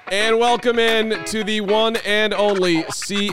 And welcome in to the one and only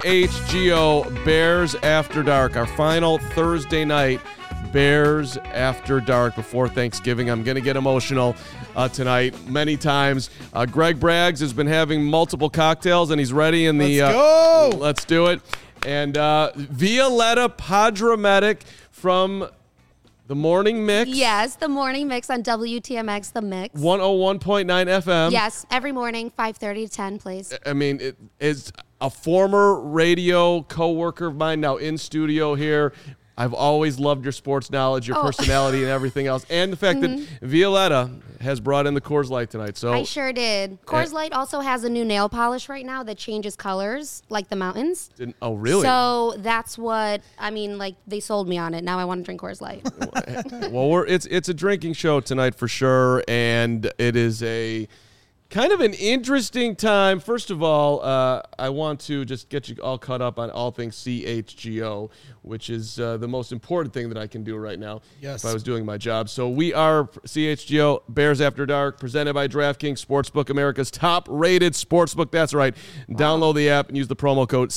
CHGO Bears After Dark, our final Thursday night Bears After Dark before Thanksgiving. I'm going to get emotional tonight many times. Greg Braggs has been having multiple cocktails, and he's ready in the... Let's go! Let's do it. And Violetta Podromatic from The Morning Mix. Yes, The Morning Mix on WTMX, The Mix. 101.9 FM. Yes, every morning, 5:30 to 10, please. I mean, it is a former radio coworker of mine now in studio here. I've always loved your sports knowledge, your personality, and everything else. And the fact that Violetta has brought in the Coors Light tonight. So I sure did. Coors Light also has a new nail polish right now that changes colors, like the mountains. Oh, really? So that's what, I mean, like, they sold me on it. Now I want to drink Coors Light. Well, it's a drinking show tonight for sure, and it is a kind of an interesting time. First of all, I want to just get you all caught up on all things CHGO, which is the most important thing that I can do right now if I was doing my job. So we are CHGO Bears After Dark, presented by DraftKings Sportsbook, America's top-rated sportsbook. That's right. Download the app and use the promo code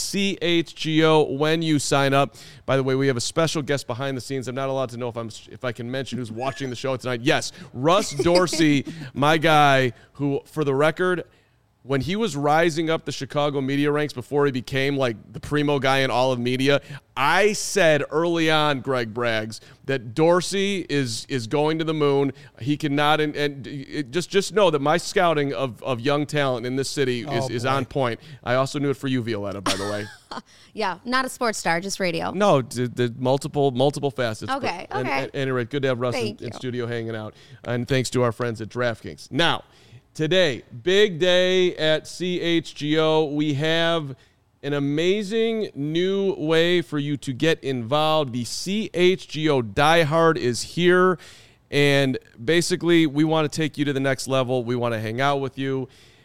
CHGO when you sign up. By the way, we have a special guest behind the scenes. I'm not allowed to know if I can mention who's watching the show tonight. Yes, Russ Dorsey, my guy, who, for the record, when he was rising up the Chicago media ranks before he became like the primo guy in all of media, I said early on, Greg Braggs, that Dorsey is going to the moon. He cannot, and just know that my scouting of young talent in this city is on point. I also knew it for you, Violetta, by the way. Yeah, not a sports star, just radio. No, the multiple facets. Okay. At any rate, good to have Russ in studio hanging out. And thanks to our friends at DraftKings. Now, today, big day at CHGO. We have an amazing new way for you to get involved. The CHGO Die Hard is here. And basically, we want to take you to the next level. We want to hang out with you.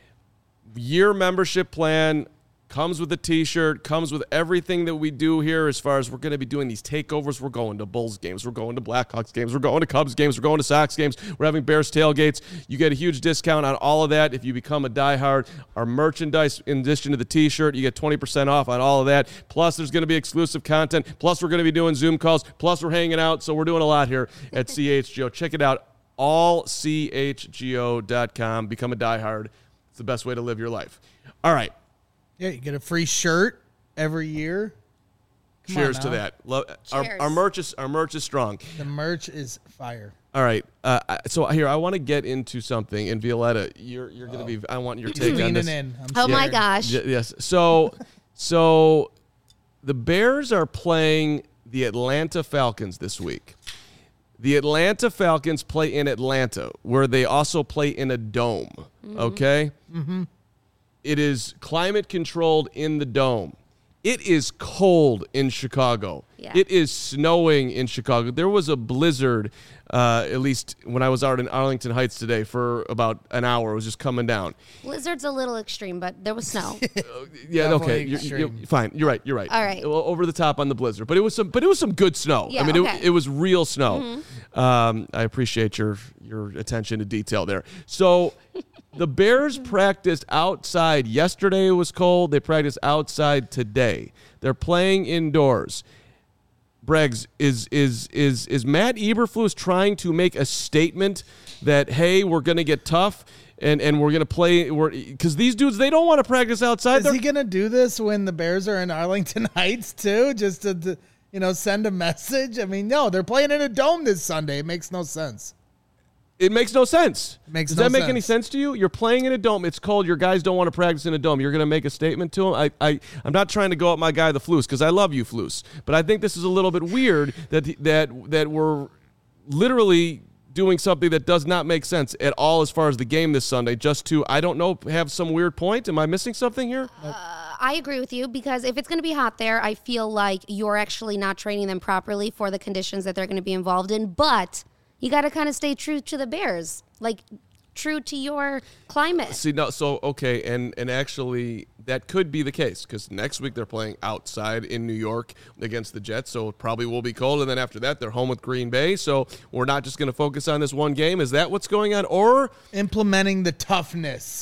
Year membership plan. Comes with a T-shirt, comes with everything that we do here as far as we're going to be doing these takeovers. We're going to Bulls games. We're going to Blackhawks games. We're going to Cubs games. We're going to Sox games. We're having Bears tailgates. You get a huge discount on all of that if you become a diehard. Our merchandise, in addition to the T-shirt, you get 20% off on all of that. Plus, there's going to be exclusive content. Plus, we're going to be doing Zoom calls. Plus, we're hanging out. So we're doing a lot here at CHGO. Check it out, allchgo.com. Become a diehard. It's the best way to live your life. All right. Yeah, you get a free shirt every year. Cheers to that. Our merch is strong. The merch is fire. All right. So here, I want to get into something. And Violetta, you're going to be. I want your take on this. Oh my gosh. Yes. So the Bears are playing the Atlanta Falcons this week. The Atlanta Falcons play in Atlanta, where they also play in a dome. Mm-hmm. Okay. Mm-hmm. It is climate controlled in the dome. It is cold in Chicago. Yeah. It is snowing in Chicago. There was a blizzard, at least when I was out in Arlington Heights today, for about an hour. It was just coming down. Blizzard's a little extreme, but there was snow. Yeah, okay, you're fine. You're right. All right. Over the top on the blizzard, but it was some good snow. Yeah, I mean, it was real snow. Mm-hmm. I appreciate your attention to detail there. So. The Bears practiced outside. Yesterday it was cold. They practiced outside today. They're playing indoors. Braggs, is Matt Eberflus trying to make a statement that, hey, we're going to get tough and we're going to play? Because these dudes, they don't want to practice outside. Is he going to do this when the Bears are in Arlington Heights too, just to send a message? I mean, no, they're playing in a dome this Sunday. It makes no sense. It makes no sense. Does that make any sense to you? You're playing in a dome. It's cold. Your guys don't want to practice in a dome. You're going to make a statement to them? I'm not trying to go at my guy, the Flus, because I love you, Flus. But I think this is a little bit weird that we're literally doing something that does not make sense at all as far as the game this Sunday, just to, I don't know, have some weird point. Am I missing something here? I agree with you, because if it's going to be hot there, I feel like you're actually not training them properly for the conditions that they're going to be involved in. But you got to kind of stay true to the Bears, like true to your climate. See, no, so, okay, and actually that could be the case, because next week they're playing outside in New York against the Jets, so it probably will be cold, and then after that they're home with Green Bay, so we're not just going to focus on this one game. Is that what's going on? Or implementing the toughness.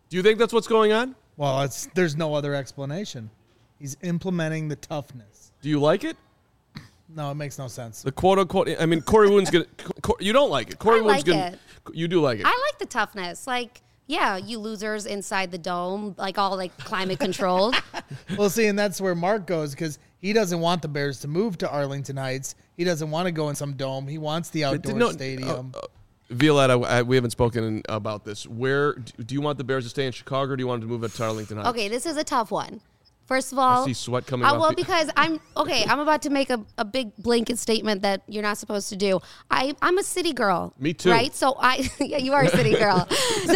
Do you think that's what's going on? Well, there's no other explanation. He's implementing the toughness. Do you like it? No, it makes no sense. The quote unquote. I mean, Corey Wooten's gonna. You don't like it. Corey I Wooten's like gonna. it. You do like it. I like the toughness. Like, yeah, you losers inside the dome, like all like climate controlled. Well, see, and that's where Mark goes because he doesn't want the Bears to move to Arlington Heights. He doesn't want to go in some dome. He wants the outdoor stadium. Violetta, we haven't spoken about this. Where do you want the Bears to stay in Chicago, or do you want them to move it to Arlington Heights? Okay, this is a tough one. First of all, I see sweat coming off. well, because I'm about to make a big blanket statement that you're not supposed to do. I'm a city girl. Me too. Right? So yeah, you are a city girl. So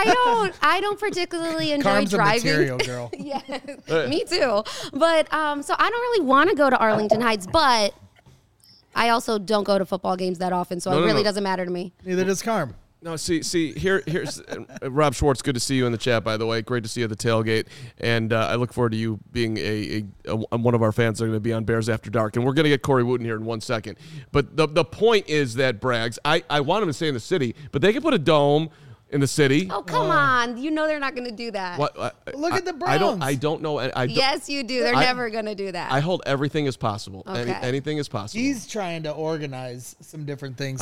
I don't particularly enjoy Carm's driving. a material girl. Yeah, me too. But so I don't really want to go to Arlington Heights, but I also don't go to football games that often, so it really doesn't matter to me. Neither does Carm. No, here's Rob Schwartz. Good to see you in the chat, by the way. Great to see you at the tailgate, and I look forward to you being a one of our fans that are going to be on Bears After Dark, and we're going to get Corey Wooten here in 1 second. But the point is that Braggs, I want him to stay in the city, but they can put a dome in the city. Oh, come on. You know they're not going to do that. Look at the Browns. I don't know. Yes, you do. They're never going to do that. I hold everything as possible. Okay. Anything is possible. He's trying to organize some different things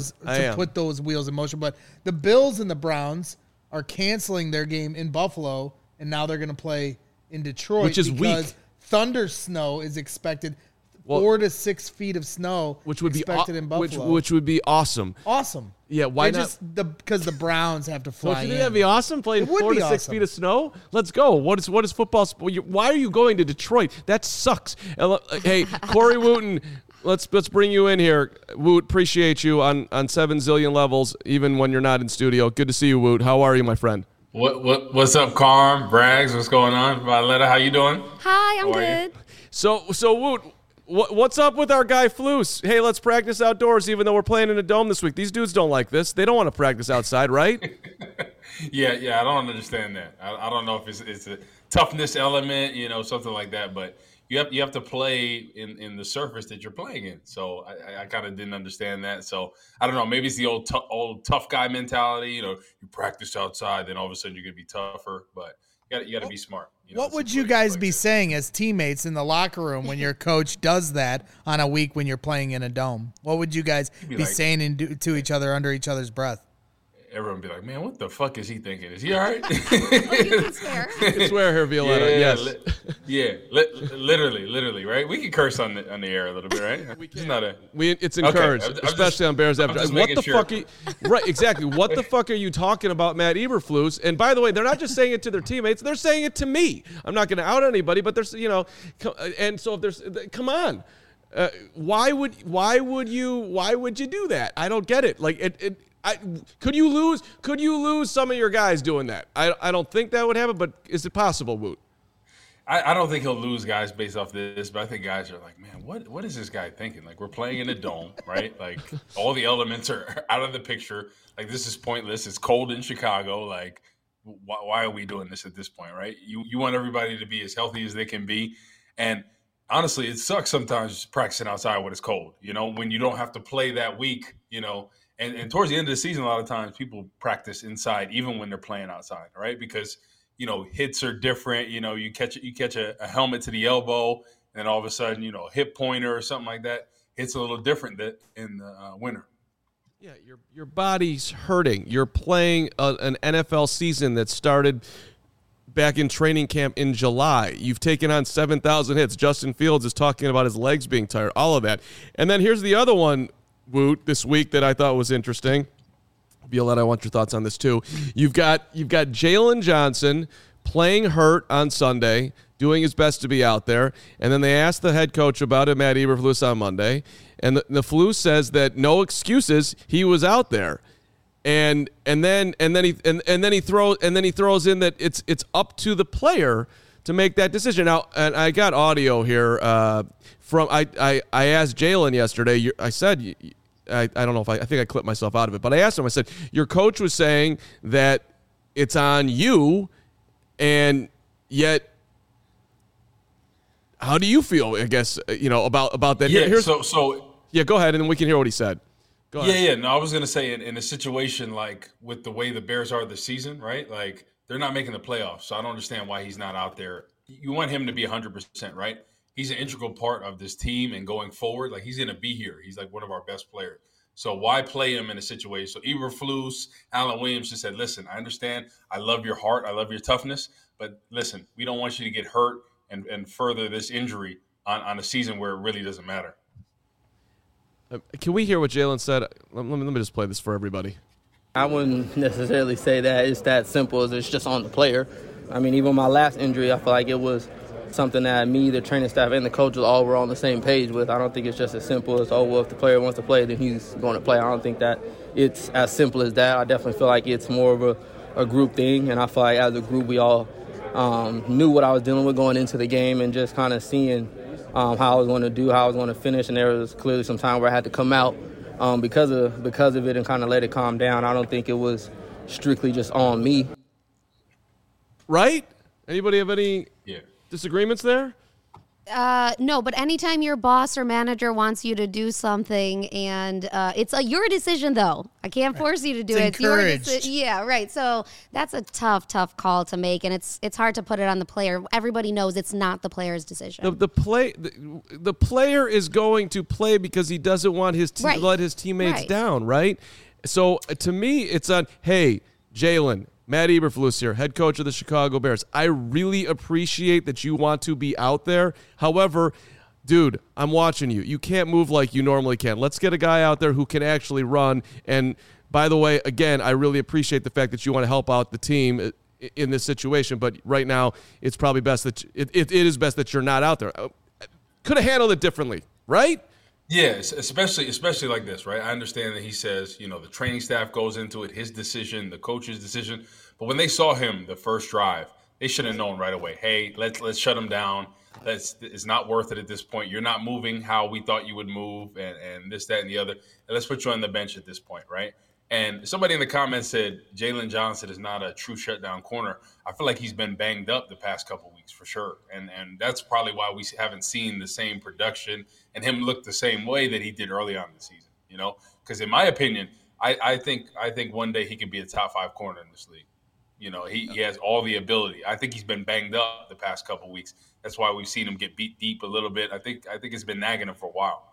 put those wheels in motion. But the Bills and the Browns are canceling their game in Buffalo, and now they're going to play in Detroit, which is because weak. Thunder snow is expected. 4 to 6 feet of snow, which would expected be in Buffalo, which would be awesome. Awesome. Yeah, why not? Because the Browns have to fly. Don't you think that'd be awesome? Playing 4 to 6 feet of snow. Let's go. What is football? Why are you going to Detroit? That sucks. Hey, Corey Wooten, let's bring you in here. Woot, appreciate you on 7 zillion levels, even when you're not in studio. Good to see you, Woot. How are you, my friend? What's up, Carm? Braggs, what's going on? Violetta, how you doing? Hi, I'm good. So Woot, what's up with our guy Flus? Hey, let's practice outdoors even though we're playing in a dome this week. These dudes don't like this. They don't want to practice outside, right? Yeah, I don't understand that. I don't know if it's a toughness element, something like that, but you have to play in the surface that you're playing in. So I kind of didn't understand that. So I don't know. Maybe it's the old tough guy mentality. You practice outside, then all of a sudden you're going to be tougher. But you got to be smart. What would you guys be saying as teammates in the locker room when your coach does that on a week when you're playing in a dome? What would you guys be saying to each other under each other's breath? Everyone would be like, man, what the fuck is he thinking? Is he all right? You can swear. You can swear here, Violetta. Yes. Literally, right? We can curse on the air a little bit, right? We can. It's encouraged, okay. especially on Bears After. What the fuck? Right, exactly. What the fuck are you talking about, Matt Eberflus? And by the way, they're not just saying it to their teammates; they're saying it to me. I'm not going to out anybody, but there's, and so if there's, come on. Why would you do that? I don't get it. Like could you lose some of your guys doing that? I don't think that would happen, but is it possible, Woot? I don't think he'll lose guys based off this, but I think guys are like, man, what is this guy thinking? Like, we're playing in a dome, right? Like, all the elements are out of the picture. Like, this is pointless. It's cold in Chicago. Like, why are we doing this at this point, right? You want everybody to be as healthy as they can be. And honestly, it sucks sometimes practicing outside when it's cold, when you don't have to play that week, And towards the end of the season, a lot of times people practice inside, even when they're playing outside, right? Because, hits are different. You catch a helmet to the elbow, and all of a sudden, a hip pointer or something like that hits a little different in the winter. Yeah, your body's hurting. You're playing an NFL season that started back in training camp in July. You've taken on 7,000 hits. Justin Fields is talking about his legs being tired, all of that. And then here's the other one, Woot, this week that I thought was interesting. Violetta, I want your thoughts on this too. You've got Jalen Johnson playing hurt on Sunday, doing his best to be out there, and then they asked the head coach about it, Matt Eberflus, on Monday, and the Flus says that no excuses, he was out there, and then he throws in that it's up to the player to make that decision. Now, and I got audio here from I asked Jalen yesterday. I said. I don't know if I think I clipped myself out of it, but I asked him, I said, your coach was saying that it's on you, and yet how do you feel, I guess, about that? Yeah, yeah, go ahead, and then we can hear what he said. Go ahead. Yeah. No, I was going to say in a situation like with the way the Bears are this season, right? Like, they're not making the playoffs. So I don't understand why he's not out there. You want him to be 100%, right? He's an integral part of this team and going forward. Like, he's going to be here. He's like one of our best players. So why play him in a situation? So Eberflus, Alan Williams just said, listen, I understand. I love your heart. I love your toughness. But listen, we don't want you to get hurt and further this injury on a season where it really doesn't matter. Can we hear what Jalen said? Let me just play this for everybody. I wouldn't necessarily say that it's that simple as it's just on the player. I mean, even my last injury, I feel like it was something that me, the training staff, and the coaches all were on the same page with. I don't think it's just as simple as, if the player wants to play, then he's going to play. I don't think that it's as simple as that. I definitely feel like it's more of a group thing, and I feel like as a group we all knew what I was dealing with going into the game and just kind of seeing how I was going to do, how I was going to finish, and there was clearly some time where I had to come out because of it and kind of let it calm down. I don't think it was strictly just on me. Right? Anybody have any disagreements there? No, but anytime your boss or manager wants you to do something and it's your decision, though. I can't force you to do it. It's your decision. Yeah, right. So that's a tough call to make, and it's hard to put it on the player. Everybody knows it's not the player's decision. The player is going to play because he doesn't want his let his teammates down, right? So to me, it's on, hey, Jalen, Matt Eberflus here, head coach of the Chicago Bears. I really appreciate that you want to be out there. However, dude, I'm watching you. You can't move like you normally can. Let's get a guy out there who can actually run. And by the way, again, I really appreciate the fact that you want to help out the team in this situation. But right now, it's probably best that it is best that you're not out there. Could have handled it differently, right? Yes, especially like this, right? I understand that he says, the training staff goes into it, his decision, the coach's decision. But when they saw him the first drive, they should have known right away, hey, let's shut him down. It's not worth it at this point. You're not moving how we thought you would move and this, that, and the other. And let's put you on the bench at this point, right? And somebody in the comments said Jalen Johnson is not a true shutdown corner. I feel like he's been banged up the past couple weeks for sure. And that's probably why we haven't seen the same production and him look the same way that he did early on in the season, Because in my opinion, I think one day he could be a top 5 corner in this league. He has all the ability. I think he's been banged up the past couple weeks. That's why we've seen him get beat deep a little bit. I think it's been nagging him for a while.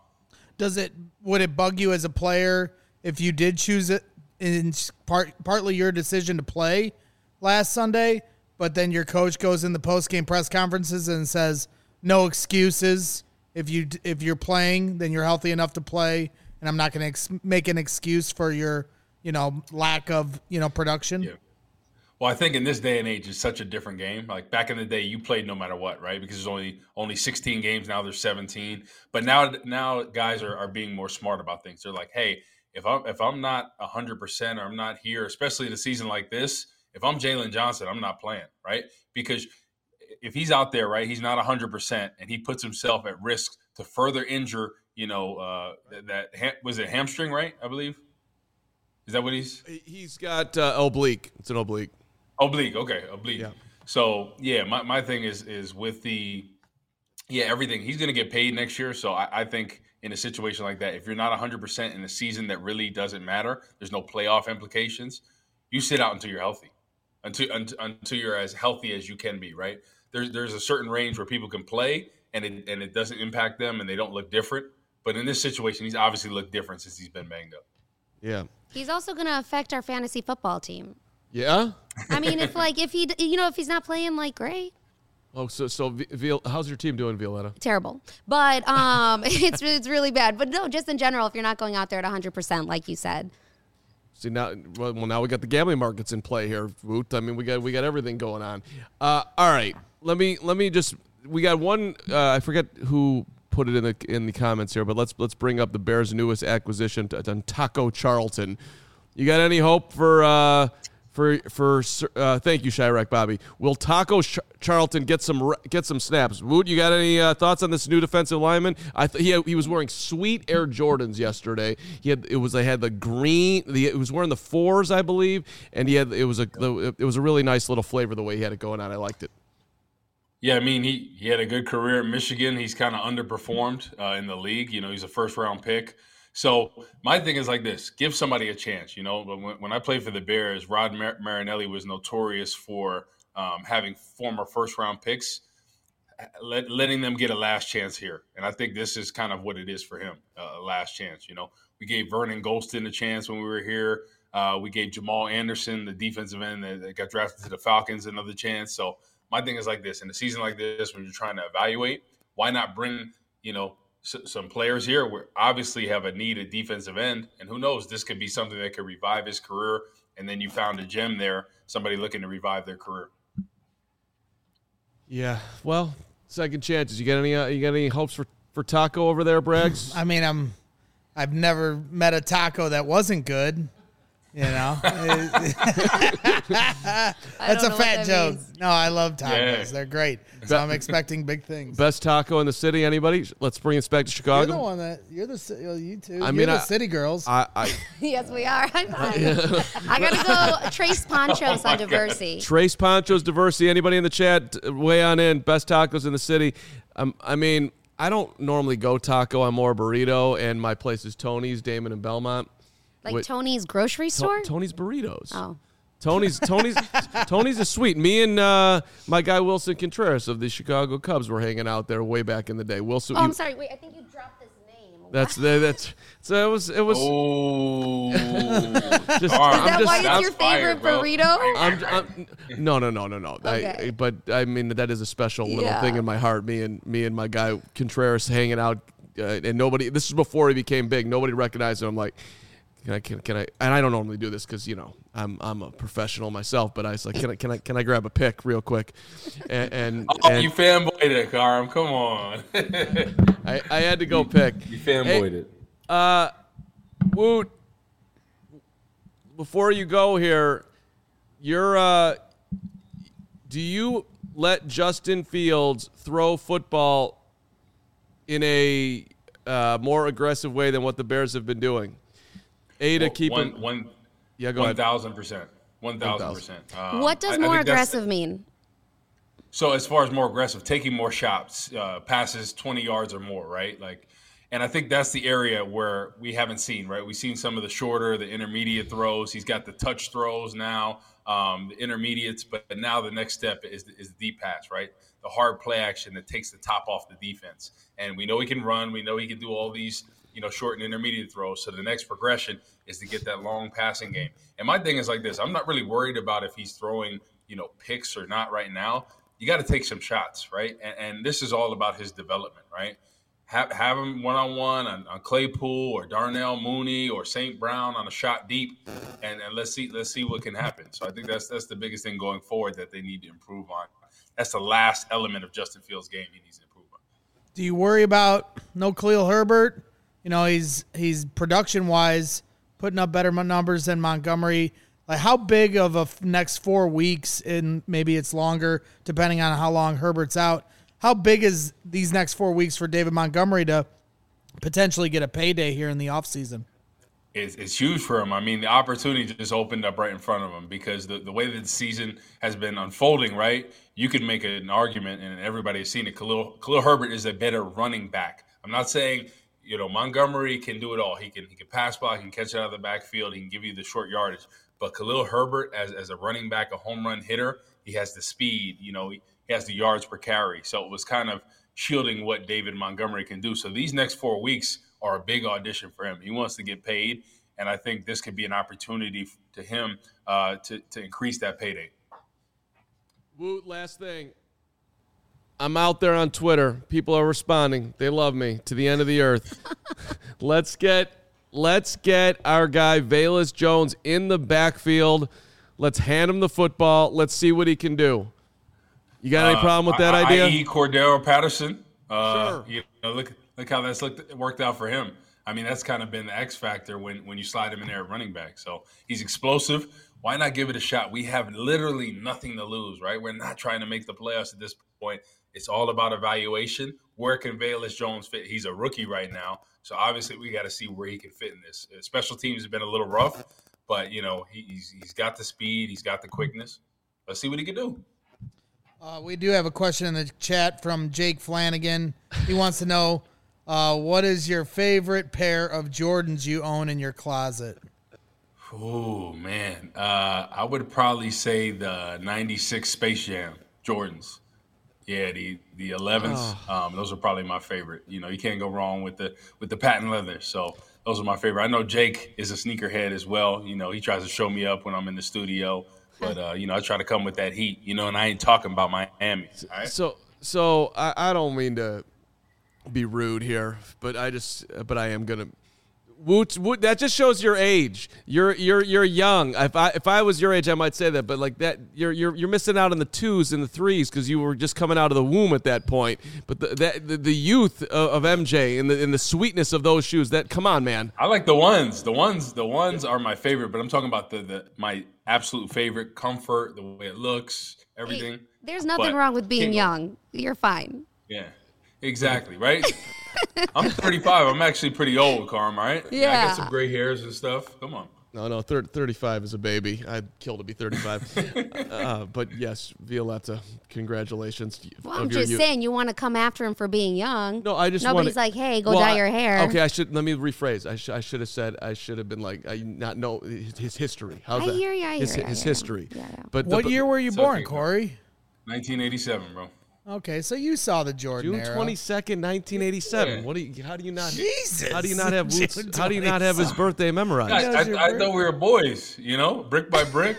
Would it bug you as a player if you did choose it in partly your decision to play last Sunday, but then your coach goes in the post-game press conferences and says no excuses? If you're playing, then you're healthy enough to play, and I'm not going to make an excuse for your lack of production. Yeah. Well, I think in this day and age, it's such a different game. Like back in the day, you played no matter what, right? Because there's only 16 games now. There's 17, but now guys are being more smart about things. They're like, hey, if I'm not 100% or I'm not here, especially in a season like this, if I'm Jalen Johnson, I'm not playing, right? Because if he's out there, right, he's not 100% and he puts himself at risk to further injure, was it hamstring, right? I believe. Is that what he's got oblique. It's an oblique. Oblique, okay, oblique. Yeah. So, my thing is with everything. He's going to get paid next year, so I think in a situation like that, if you're not 100% in a season that really doesn't matter, there's no playoff implications, you sit out until you're healthy, until you're as healthy as you can be, right? There's a certain range where people can play and it doesn't impact them and they don't look different. But in this situation, he's obviously looked different since he's been banged up. Yeah. He's also going to affect our fantasy football team. Yeah? I mean, if he's not playing, great. Oh, so how's your team doing, Violetta? Terrible. But it's really bad. But no, just in general, if you're not going out there at 100%, like you said. See, now we got the gambling markets in play here, Woot. I mean, we got everything going on. All right. Let me just, we got one, I forget who put it in the comments here, but let's bring up the Bears' newest acquisition, Taco Charlton. You got any hope for thank you, Chirac Bobby. Will Taco Charlton get some snaps? Woot, you got any thoughts on this new defensive lineman? He was wearing sweet Air Jordans yesterday. He was wearing the 4s, I believe, and it was a really nice little flavor the way he had it going on. I liked it. Yeah, I mean he had a good career at Michigan. He's kind of underperformed in the league. He's a first round pick. So my thing is like this: give somebody a chance. But when I played for the Bears, Rod Marinelli was notorious for having former first-round picks, letting them get a last chance here. And I think this is kind of what it is for him, a last chance. We gave Vernon Golston a chance when we were here. We gave Jamal Anderson, the defensive end that got drafted to the Falcons, another chance. So my thing is like this: in a season like this, when you're trying to evaluate, why not bring some players here? We obviously have a need at defensive end, and who knows, this could be something that could revive his career. And then you found a gem there, somebody looking to revive their career. Yeah, well, second chances. You got any hopes for Taco over there, Braggs? I mean, I've never met a taco that wasn't good. That's a fat joke. Means. No, I love tacos. Yeah. They're great. So I'm expecting big things. Best taco in the city, anybody? Let's bring us back to Chicago. You're the one that, you two. You're the city girls. Yes, we are. I'm fine. I got to go Trace Ponchos on Diversey. Trace Ponchos, Diversey. Anybody in the chat, weigh on in. Best tacos in the city. I don't normally go taco. I'm more burrito, and my place is Tony's, Damon and Belmont. Like Tony's grocery store? Tony's Burritos. Oh. Tony's is sweet. Me and my guy Wilson Contreras of the Chicago Cubs were hanging out there way back in the day. Wilson. Oh, I'm sorry. Wait, I think you dropped his name. That's so it was. Oh. Is that why it's your favorite burrito? No. Okay. But I mean, that is a special little thing in my heart. Me and my guy Contreras hanging out, and nobody. This is before he became big. Nobody recognized him. I'm like, Can I? And I don't normally do this because I'm a professional myself. But I was like, can I grab a pic real quick? And you fanboyed it, Karam. Come on. I had to go pick. You fanboyed it. Woot. Before you go here, do you let Justin Fields throw football in a more aggressive way than what the Bears have been doing? Keep him. Go ahead. 1,000%. 1,000%. What does more aggressive mean? So as far as more aggressive, taking more shots, passes 20 yards or more, right? And I think that's the area where we haven't seen, right? We've seen some of the shorter, the intermediate throws. He's got the touch throws now, the intermediates, but now the next step is the deep pass, right? The hard play action that takes the top off the defense. And we know he can run. We know he can do all these short and intermediate throws. So the next progression is to get that long passing game. And my thing is like this. I'm not really worried about if he's throwing, picks or not right now. You got to take some shots, right? And this is all about his development, right? Have him one-on-one on Claypool or Darnell Mooney or St. Brown on a shot deep, and let's see what can happen. So I think that's the biggest thing going forward that they need to improve on. That's the last element of Justin Fields' game he needs to improve on. Do you worry about no Khalil Herbert? He's production-wise putting up better numbers than Montgomery. Like, how big of a next 4 weeks, and maybe it's longer, depending on how long Herbert's out, how big is these next 4 weeks for David Montgomery to potentially get a payday here in the offseason? It's huge for him. I mean, the opportunity just opened up right in front of him because the way that the season has been unfolding, right, you could make an argument, and everybody has seen it. Khalil Herbert is a better running back. I'm not saying – Montgomery can do it all. He can pass block, he can catch it out of the backfield, he can give you the short yardage. But Khalil Herbert, as a running back, a home run hitter, he has the speed. He has the yards per carry. So it was kind of shielding what David Montgomery can do. So these next 4 weeks are a big audition for him. He wants to get paid, and I think this could be an opportunity to him to increase that payday. Woot, last thing. I'm out there on Twitter. People are responding. They love me to the end of the earth. Let's get our guy Velus Jones in the backfield. Let's hand him the football. Let's see what he can do. You got any problem with that idea? I.e. Cordero Patterson. Sure. Look how that's worked out for him. I mean, that's kind of been the X factor when you slide him in there at running back. So he's explosive. Why not give it a shot? We have literally nothing to lose, right? We're not trying to make the playoffs at this point. It's all about evaluation. Where can Velus Jones fit? He's a rookie right now, so obviously we got to see where he can fit in this. Special teams have been a little rough, but he's got the speed, he's got the quickness. Let's see what he can do. We do have a question in the chat from Jake Flanagan. He wants to know What is your favorite pair of Jordans you own in your closet? Oh man, I would probably say the '96 Space Jam Jordans. Yeah, the 11s. Those are probably my favorite. You can't go wrong with the patent leather. So those are my favorite. I know Jake is a sneakerhead as well. He tries to show me up when I'm in the studio, but I try to come with that heat. And I ain't talking about Miami. All right? So I don't mean to be rude here, but I am gonna. Woot, that just shows your age. You're young. If I was your age, I might say that, but like that, you're missing out on the 2s and the 3s because you were just coming out of the womb at that point. But the youth of MJ and the sweetness of those shoes. That come on, man. I like the ones. The ones are my favorite. But I'm talking about my absolute favorite. Comfort, the way it looks, everything. Hey, there's nothing wrong with being young. You're fine. Yeah, exactly. Right. I'm 35. I'm actually pretty old, Carm, right? Yeah. I got some gray hairs and stuff. Come on. No, 35 is a baby. I'd kill to be 35. But yes, Violetta, congratulations. Well, I'm just saying, you want to come after him for being young. No, I just Nobody's like, hey, go dye your hair. Okay, let me rephrase. I should have been like, I not know his history. How's that? I hear you. His history. Yeah. But what year were you born, Corey? 1987, bro. Okay, so you saw the Jordan June era. 22nd, 1987. Yeah. How do you not? Jesus. How do you not have How do you not have his birthday memorized? I thought we were boys, brick by brick,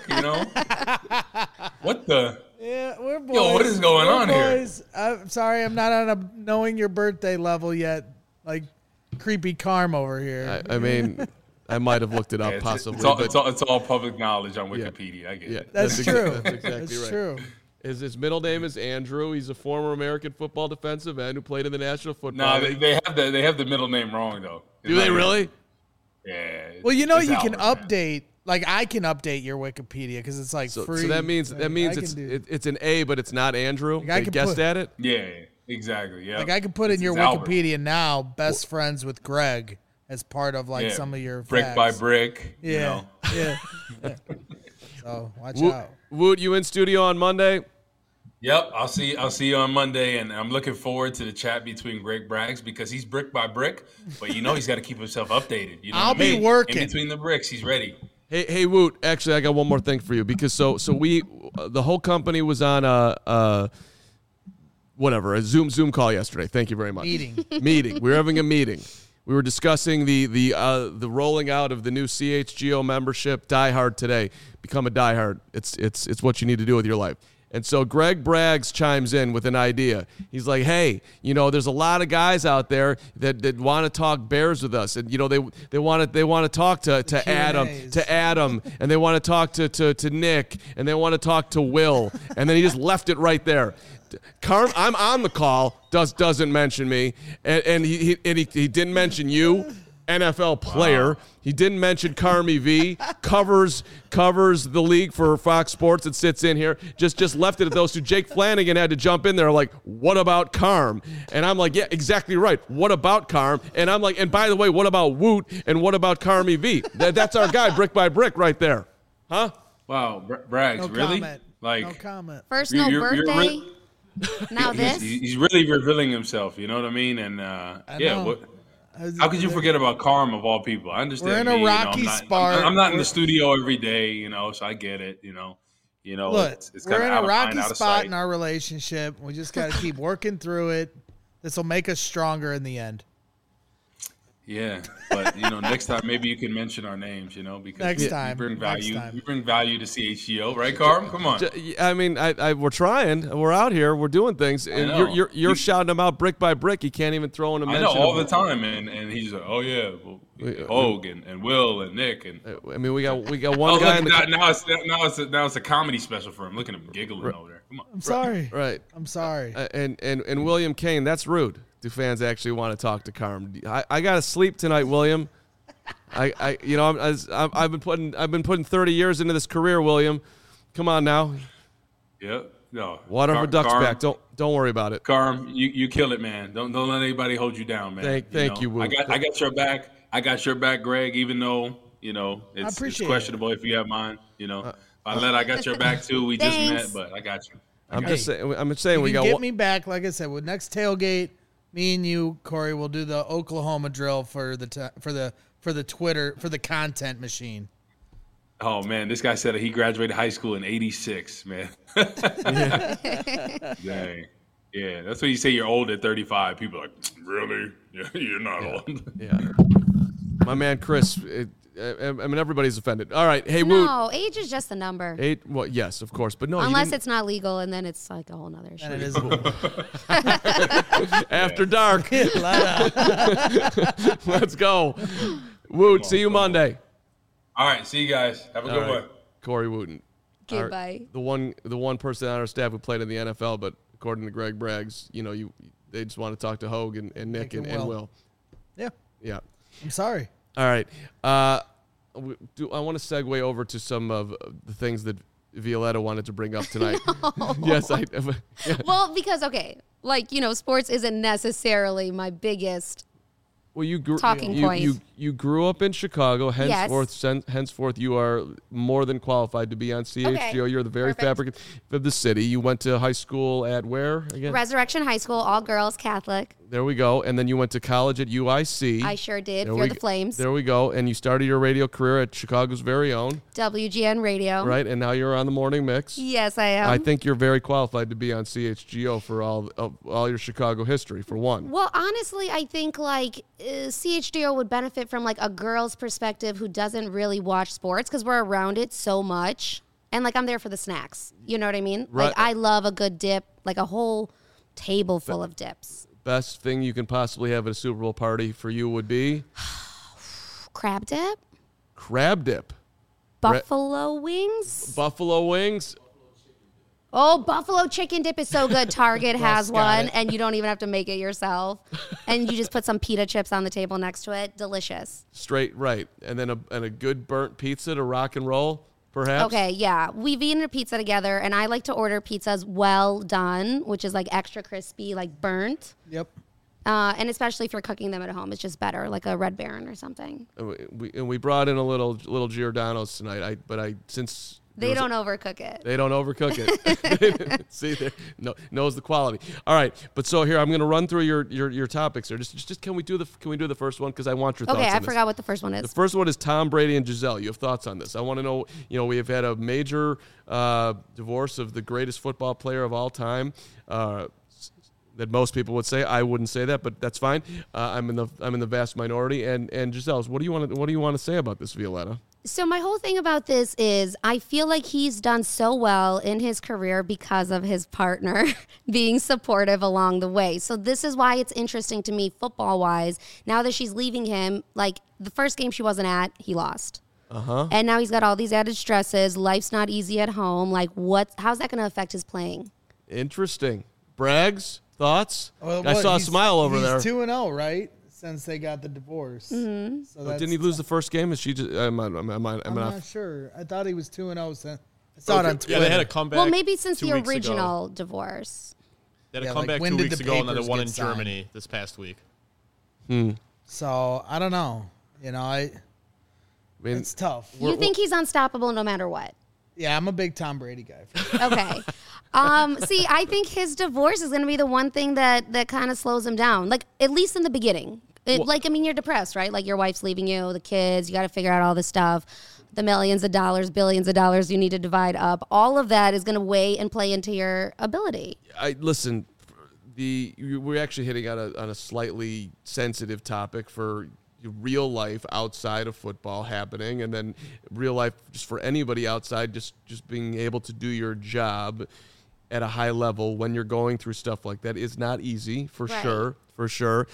What the? Yeah, we're boys. Yo, what is going on boys. Here? I'm sorry, I'm not on a knowing your birthday level yet. Like creepy Carm over here. I mean, I might have looked it up possibly. It's all public knowledge on Wikipedia. Yeah. I get it. That's true. That's exactly right. True. His middle name is Andrew. He's a former American football defensive end who played in the National Football League. No, they have the middle name wrong though. Do they really? Yeah. Well, you can update. Like I can update your Wikipedia because it's like free. So that means it's an A, but it's not Andrew. Like I guessed at it. Yeah, exactly. Yeah. Like I could put in your Wikipedia now. Best friends with Greg as part of some of your brick facts. by brick. Yeah. Yeah. So watch out. Woot, you in studio on Monday? Yep, I'll see you on Monday, and I'm looking forward to the chat between Greg Braggs because he's brick by brick, but he's got to keep himself updated. I'll be working in between the bricks. He's ready. Hey, Woot. Actually, I got one more thing for you because the whole company was on a Zoom call yesterday. Thank you very much. Meeting. We were having a meeting. We were discussing the rolling out of the new CHGO membership. Die Hard today. Become a Die Hard. It's what you need to do with your life. And so Greg Braggs chimes in with an idea. He's like, hey, there's a lot of guys out there that want to talk Bears with us. And, they want to talk to Adam, and they want to talk to Nick, and they want to talk to Will. And then he just left it right there. Carm, I'm on the call, doesn't mention me. And he didn't mention you. NFL player. Wow. He didn't mention Carmy V. Covers the league for Fox Sports and sits in here. Just left it at those two. Jake Flanagan had to jump in there like, what about Carm? And I'm like, yeah, exactly right. What about Carm? And I'm like, and by the way, what about Woot? And what about Carmy V? That's our guy, brick by brick right there. Huh? Wow, Braggs, no really? Comment. Like, no comment. First, no birthday. Now this. He's really revealing himself. You know what I mean? And how could you forget about Carm of all people? I understand. We're in a rocky spot. I'm not in the studio every day, so I get it. Look, it's we're in a rocky spot in our relationship. We just got to keep working through it. This will make us stronger in the end. Yeah, but next time maybe you can mention our names, because next time we bring value. We bring value to CHGO, right, Carm? Come on. I mean, we're trying. We're out here. We're doing things, and you're shouting them out brick by brick. You can't even throw in a mention. I know all the time, and he's like, oh yeah, Hogue and Will and Nick and. I mean, we got one guy. Now it's a comedy special for him. Look at him giggling over there. Come on. I'm sorry. Right. I'm sorry. And William Kane, that's rude. Do fans actually want to talk to Carm? I got to sleep tonight, William. I've been putting 30 years into this career, William. Come on now. Yep. No. Water for ducks back. Don't worry about it. Carm, you kill it, man. Don't let anybody hold you down, man. Thank you, Will. I got your back. I got your back, Greg. Even though it's questionable if you have mine. I got your back too. We just met, but I got you. I'm just saying. We got. Get me back, like I said, with next tailgate. Me and you, Corey, will do the Oklahoma drill for the Twitter, for the content machine. Oh man, this guy said he graduated high school in '86. Man, dang, yeah, that's when you say you're old at 35. People are like, really? Yeah, you're not old. Yeah. My man Chris, I mean, everybody's offended. All right, hey, Woot. No, age is just a number. Well, yes, of course, but no. Unless it's not legal, and then it's like a whole nother issue. And it is. After dark. Let's go. Woot, see you Monday. All right, see you guys. Have a good one. Corey Wooten. Goodbye. The one person on our staff who played in the NFL, but according to Greg Braggs, they just want to talk to Hogue and Nick and Will. Yeah. Yeah. I'm sorry. All right. I want to segue over to some of the things that Violetta wanted to bring up tonight. Yes, yeah. Well, because sports isn't necessarily my biggest talking point. You grew up in Chicago, henceforth, Yes. henceforth you are more than qualified to be on CHGO. Okay. You're the very Perfect. fabric of the city. You went to high school at where again? Resurrection High School, all girls, Catholic. There we go. And then you went to college at UIC. I sure did. There For we the go. Flames. There we go. And you started your radio career at Chicago's very own. WGN Radio. Right? And now you're on the morning mix. Yes, I am. I think you're very qualified to be on CHGO for all your Chicago history, for one. Well, honestly, I think CHGO would benefit from a girl's perspective who doesn't really watch sports because we're around it so much. And I'm there for the snacks. You know what I mean? Right. I love a good dip, a whole table full of dips. Best thing you can possibly have at a Super Bowl party for you would be? Crab dip? Crab dip. Buffalo wings? Buffalo wings. Oh, buffalo chicken dip is so good. Target has got one, it. and you don't even have to make it yourself. And you just put some pita chips on the table next to it. Delicious. Straight right. And then a good burnt pizza to rock and roll, perhaps? Okay, yeah. We've eaten a pizza together, and I like to order pizzas well done, which is extra crispy, burnt. Yep. And especially if you're cooking them at home, it's just better, like a Red Baron or something. And we brought in a little Giordano's tonight. Since They don't overcook it. They don't overcook it. See, knows the quality. All right, but so here I'm going to run through your topics here. Just can we do the first one because I want your thoughts. Okay, on I this. forgot what the first one The is. first one is Tom Brady and Giselle. You have thoughts on this? I want to know. We have had a major divorce of the greatest football player of all time. That most people would say. I wouldn't say that, but that's fine. I'm in the vast minority. And Giselle, what do you want to say about this, Violetta? So my whole thing about this is I feel like he's done so well in his career because of his partner being supportive along the way. So this is why it's interesting to me football-wise. Now that she's leaving him, the first game she wasn't at, he lost. Uh-huh. And now he's got all these added stresses. Life's not easy at home. How's that going to affect his playing? Interesting. Braggs, thoughts? Well, I saw a smile over there. He's 2-0, right? Since they got the divorce. Mm-hmm. So Didn't he lose the first game? Is she just? I'm not sure. I thought he was 2-0. I saw it on Twitter. Yeah, they had a comeback. Well, maybe since 2 the weeks ago. original divorce. They had a Yeah, comeback when 2 did weeks the ago, and then papers one get in signed? Germany this past week. So I don't know. It's tough. You think he's unstoppable no matter what? Yeah, I'm a big Tom Brady guy. Okay. See, I think his divorce is going to be the one thing that kind of slows him down, at least in the beginning. You're depressed, right? Your wife's leaving you, the kids, you got to figure out all this stuff, the millions of dollars, billions of dollars you need to divide up. All of that is going to weigh and play into your ability. Listen. We're actually hitting on a slightly sensitive topic for real life outside of football happening, and then real life just for anybody outside, just being able to do your job at a high level when you're going through stuff like that is not easy, for Right. sure.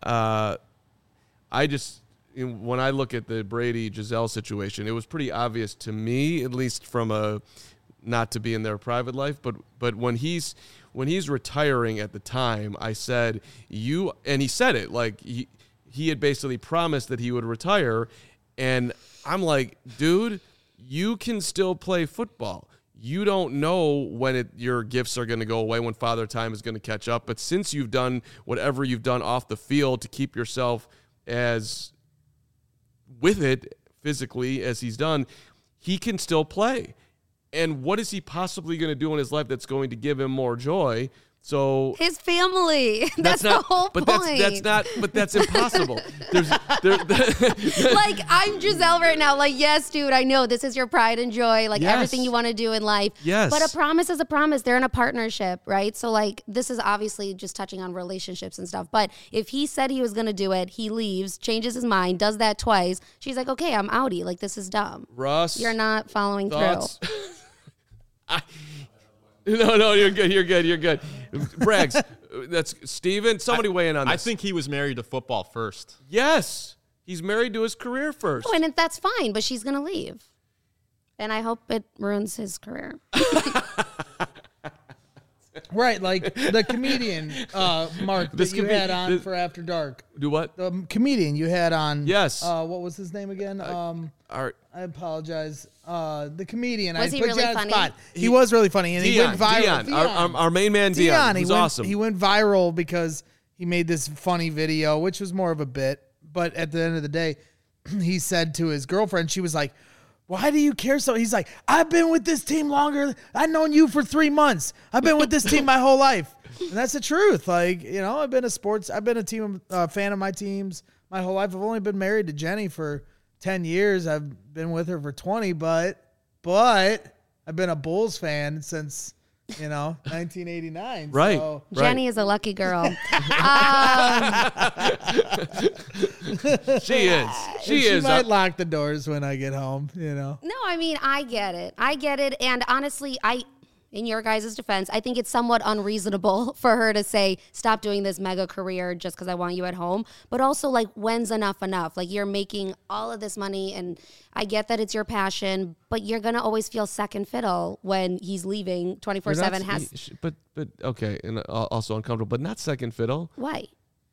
When I look at the Brady-Giselle situation, it was pretty obvious to me, at least from not to be in their private life, but when he's retiring at the time, I said, and he said it, he had basically promised that he would retire, and I'm like, dude, you can still play football. You don't know when your gifts are going to go away, when Father Time is going to catch up. But since you've done whatever you've done off the field to keep yourself as with it physically as he's done, he can still play. And what is he possibly going to do in his life that's going to give him more joy So His family. That's not the whole but point. that's not but that's impossible. There's Like, I'm Giselle right now. Like, yes, dude, I know this is your pride and joy, like Yes. everything you want to do in life. Yes. But a promise is a promise. They're in a partnership, right? So, like, this is obviously just touching on relationships and stuff. But if he said he was going to do it, he leaves, changes his mind, does that twice. She's like, okay, I'm outie. Like, this is dumb. Russ. You're not following thoughts? through. No, you're good. You're good. Braggs, that's Steven. Somebody weigh in on this. I think he was married to football first. Yes. He's married to his career first. Oh, and that's fine, but she's going to leave. And I hope it ruins his career. Right, like the comedian, Mark, that you had on for After Dark. Do what? The comedian you had on. Yes. What was his name again? Art. I apologize. The comedian. Was I he put really you on the funny? spot. He was really funny, and he went viral. Dion. Our main man, Dion. He was awesome. He went viral because he made this funny video, which was more of a bit. But at the end of the day, he said to his girlfriend, she was like, "Why do you care so?" He's like, "I've been with this team longer. I've known you for 3 months. I've been with this team my whole life." And that's the truth. Like, you know, I've been a team fan of my teams my whole life. I've only been married to Jenny for 10 years. I've been with her for 20, but I've been a Bulls fan since, 1989. Right. So, Jenny is a lucky girl. She is. she might lock the doors when I get home, No, I mean, I get it. And honestly, in your guys' defense, I think it's somewhat unreasonable for her to say, stop doing this mega career just because I want you at home. But also, like, when's enough? Like, you're making all of this money, and I get that it's your passion, but you're going to always feel second fiddle when he's leaving 24/7. But okay, and also uncomfortable, but not second fiddle. Why?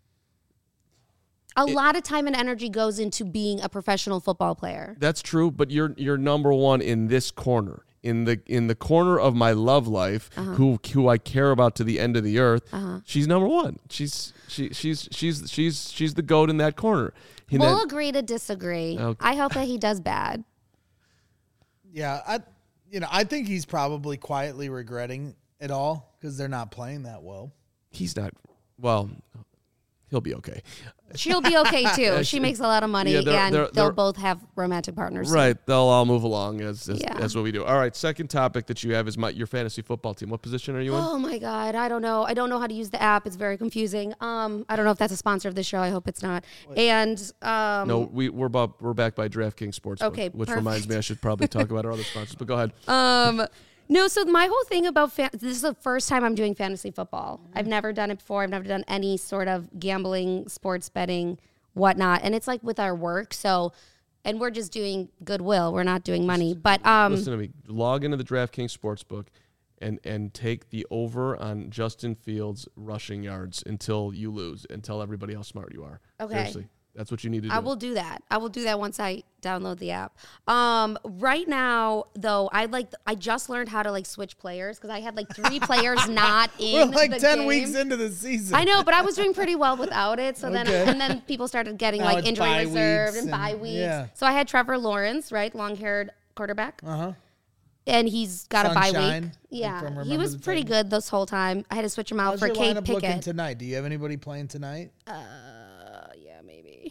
A lot of time and energy goes into being a professional football player. That's true, but you're number one in this corner. In the corner of my love life, who I care about to the end of the earth, she's number one. She's the GOAT in that corner. We'll agree to disagree. Okay. I hope that he does bad. Yeah, I think he's probably quietly regretting it all because they're not playing that well. He's not. Well, he'll be okay. She'll be okay too. She makes a lot of money, and they'll both have romantic partners. Right, they'll all move along as Yeah. what we do. All right, second topic that you have is your fantasy football team. What position are you in? Oh my God, I don't know. I don't know how to use the app. It's very confusing. I don't know if that's a sponsor of the show. I hope it's not. And No, we're backed by DraftKings Sportsbook. Okay, which perfect. reminds me, I should probably talk about our other sponsors. But go ahead. No, so my whole thing about this is the first time I'm doing fantasy football. I've never done it before. I've never done any sort of gambling, sports betting, whatnot. And it's like with our work. So, and we're just doing goodwill. We're not doing money. But Listen to me. Log into the DraftKings Sportsbook and take the over on Justin Fields rushing yards until you lose and tell everybody how smart you are. Okay. Seriously. That's what you need to do. I will do that. I will do that once I download the app. Right now, though, I just learned how to like switch players because I had like 3 players not in. We're like the 10 game. weeks into the season. I know, but I was doing pretty well without it. So Okay. then people started getting Now like it's injury bye reserved weeks and bye and- weeks. yeah. So I had Trevor Lawrence, right, long-haired quarterback, Uh-huh. and he's got a bye Sunshine, week. like Yeah, from he Remember was the pretty Titans. good this whole time. I had to switch him out How's for your Kate lineup looking Pickett. tonight? Do you have anybody playing tonight? Yeah, maybe.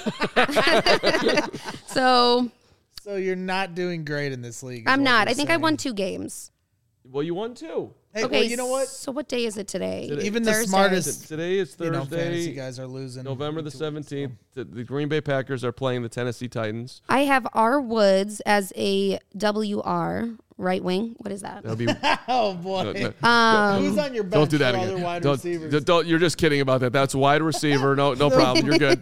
So So you're not doing great in this league. is I'm what not. you're I think I saying. won 2 games. Well, you won too. Hey, Okay, well, you know what? So what day is it today? Even the Thursday. smartest Today is fantasy Thursday, guys are losing. November the week to week, 17th. The Green Bay Packers are playing the Tennessee Titans. I have R. Woods as a WR right wing. What is that? That'll be. so- Oh boy. Who's on your bench? Don't do that for again. Other wide Don't, receivers? don't. You're just kidding about that. That's wide receiver. No problem. You're good.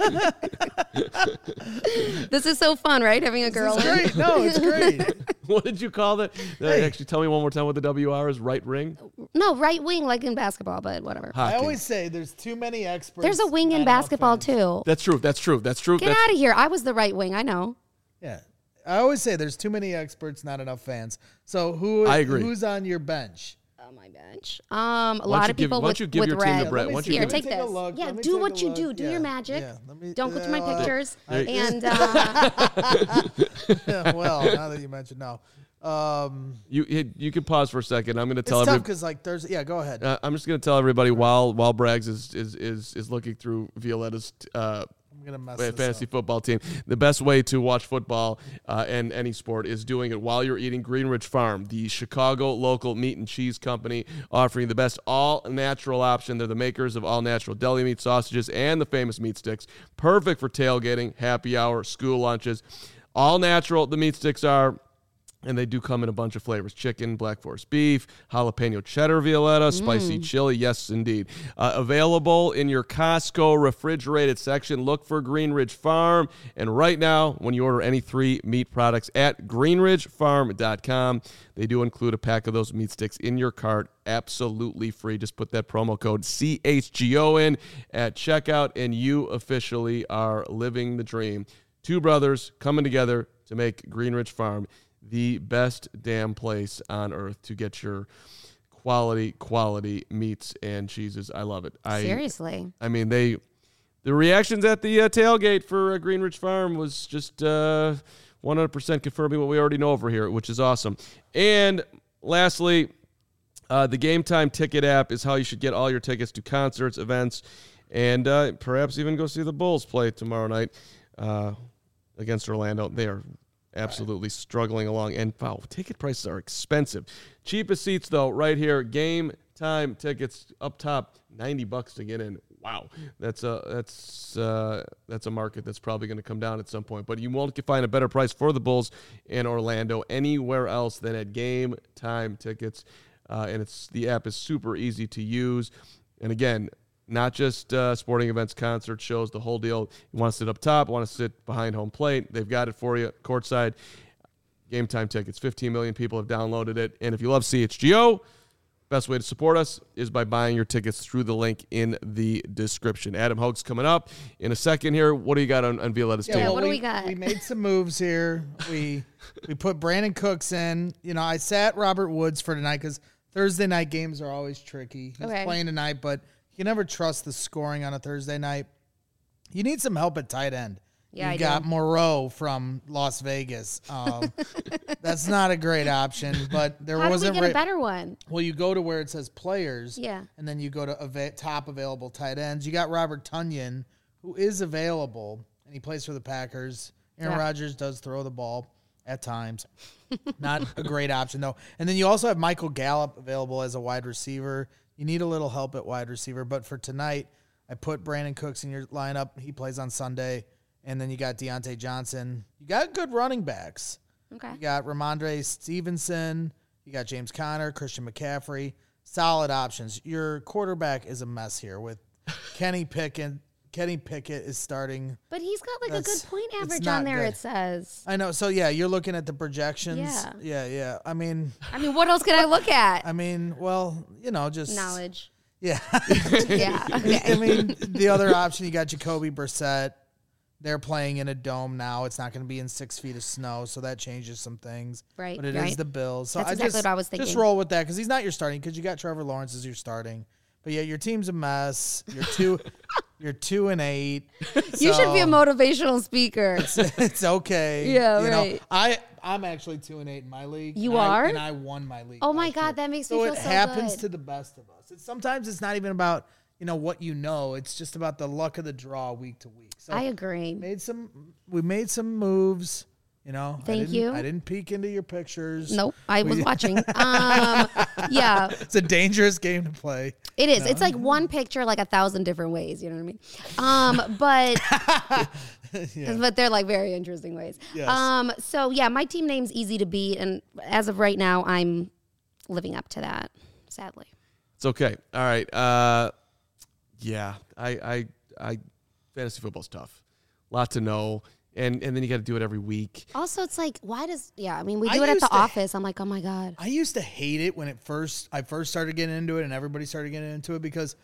This is so fun, right? Having a girl. It's great. No, it's great. What did you call that? Actually, tell me one more time what the WR is. Right ring. No, right wing, like in basketball, but whatever. I Hockey. always say there's too many experts. There's a wing not in enough basketball fans. too. That's true. That's true. That's true. Get out of here. I was the right wing. I know. Yeah. I always say there's too many experts, not enough fans. So I agree. who's on your bench? On my bench. A lot of people why don't you with give your team red. to Brett? Why don't you Here, give take Let me this. take a look. Yeah, Let me do take what a you do. look. Do Yeah. your magic. Yeah. Let me- Don't go through my well, pictures. And well, now that you mentioned, no. You can pause for a second. I'm going to It's tell tough everybody. because like Thursday. Yeah, go ahead. I'm just going to tell everybody while Braggs is looking through Violetta's I'm gonna mess this fantasy up. football team. The best way to watch football and any sport is doing it while you're eating Greenridge Farm, the Chicago local meat and cheese company, offering the best all-natural option. They're the makers of all-natural deli meat, sausages, and the famous meat sticks. Perfect for tailgating, happy hour, school lunches. All natural, the meat sticks are. And they do come in a bunch of flavors: chicken, black forest beef, jalapeno cheddar, Violetta, spicy chili. Yes, indeed. Available in your Costco refrigerated section. Look for Greenridge Farm. And right now, when you order any 3 meat products at greenridgefarm.com, they do include a pack of those meat sticks in your cart, absolutely free. Just put that promo code CHGO in at checkout, and you officially are living the dream. 2 brothers coming together to make Greenridge Farm the best damn place on earth to get your quality meats and cheeses. I love it. Seriously. I mean, the reactions at the tailgate for Greenridge Farm was just 100% confirming what we already know over here, which is awesome. And lastly, the Game Time ticket app is how you should get all your tickets to concerts, events, and perhaps even go see the Bulls play tomorrow night against Orlando. They are absolutely struggling along. And, wow, ticket prices are expensive. Cheapest seats, though, right here. Game Time tickets up top, $90 to get in. Wow. That's a market that's probably going to come down at some point. But you won't find a better price for the Bulls in Orlando anywhere else than at Game Time tickets. And the app is super easy to use. And, again, not just sporting events, concerts, shows, the whole deal. You want to sit up top, want to sit behind home plate. They've got it for you, courtside. Game Time tickets. 15 million people have downloaded it. And if you love CHGO, best way to support us is by buying your tickets through the link in the description. Adam Hogue's coming up in a second here. What do you got on Violetta's team? what do we got? We made some moves here. We put Brandon Cooks in. You know, I sat Robert Woods for tonight because Thursday night games are always tricky. He's playing tonight, but you can never trust the scoring on a Thursday night. You need some help at tight end. Yeah, you got Moreau from Las Vegas. That's not a great option, but there How wasn't do we get a better one? Well, you go to where it says players, Yeah. and then you go to top available tight ends. You got Robert Tonyan, who is available, and he plays for the Packers. Aaron Rodgers does throw the ball at times. Not a great option, though. And then you also have Michael Gallup available as a wide receiver. You need a little help at wide receiver, but for tonight, I put Brandon Cooks in your lineup. He plays on Sunday. And then you got Deontay Johnson. You got good running backs. Okay. You got Ramondre Stevenson. You got James Conner, Christian McCaffrey. Solid options. Your quarterback is a mess here with Kenny Pickett. Kenny Pickett is starting. But he's got like a good point it's average not on there, good. it says. I know. So, yeah, you're looking at the projections. Yeah. I mean, what else can I look at? well, just Knowledge. Yeah. Yeah. Okay. I mean, the other option, you got Jacoby Brissett. They're playing in a dome now. It's not going to be in 6 feet of snow, so that changes some things. Right, But it is the Bills. So That's exactly what I was Just thinking. roll with that because he's not your starting because you got Trevor Lawrence as your starting. But yeah, your team's a mess. You're 2-8. You should be a motivational speaker. It's okay. Yeah, you right. know, I'm actually 2-8 in my league. You and are? and I won my league. Oh my last God, year. that makes me so feel it so happens good. to the best of us. Sometimes it's not even about what you know. It's just about the luck of the draw week to week. So I agree. we made some moves. Thank you. I didn't peek into your pictures. Nope, I was watching. Yeah, It's a dangerous game to play. it is. It's like one picture, like 1,000 different ways. You know what I mean? But they're like very interesting ways. Yes. So yeah, my team name's easy to beat, and as of right now, I'm living up to that. Sadly. It's okay. All right. Yeah. I fantasy football's tough. A lot to know. And then you got to do it every week. Also, it's like, we I do it at used the to- office. I'm like, oh my God. I used to hate it when I first started getting into it and everybody started getting into it because,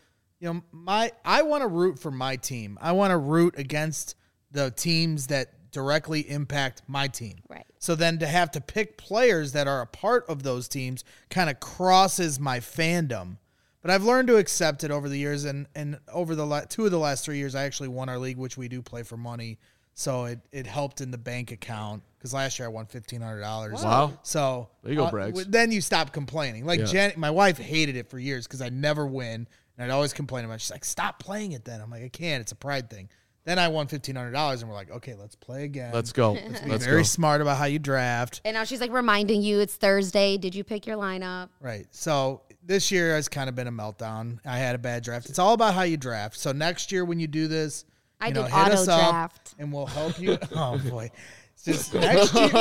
I want to root for my team. I want to root against the teams that directly impact my team. Right. So then to have to pick players that are a part of those teams kind of crosses my fandom. But I've learned to accept it over the years, and over the 2 of the last 3 years, I actually won our league, which we do play for money. so it helped in the bank account because last year I won $1,500. Wow. So There you go, Braggs. then you stop complaining. Like Yeah. my wife hated it for years because I never win, and I'd always complain about it. She's like, "Stop playing it." Then I'm like, "I can't. It's a pride thing." Then I won $1,500, and we're like, "Okay, let's play again." Let's go. Be Let's very go. smart about how you draft. And now she's like reminding you it's Thursday. Did you pick your lineup? Right. So this year has kind of been a meltdown. I had a bad draft. It's all about how you draft. So next year when you do this, I you did know, hit us auto up draft. and we'll help you. Oh boy. It's just next year.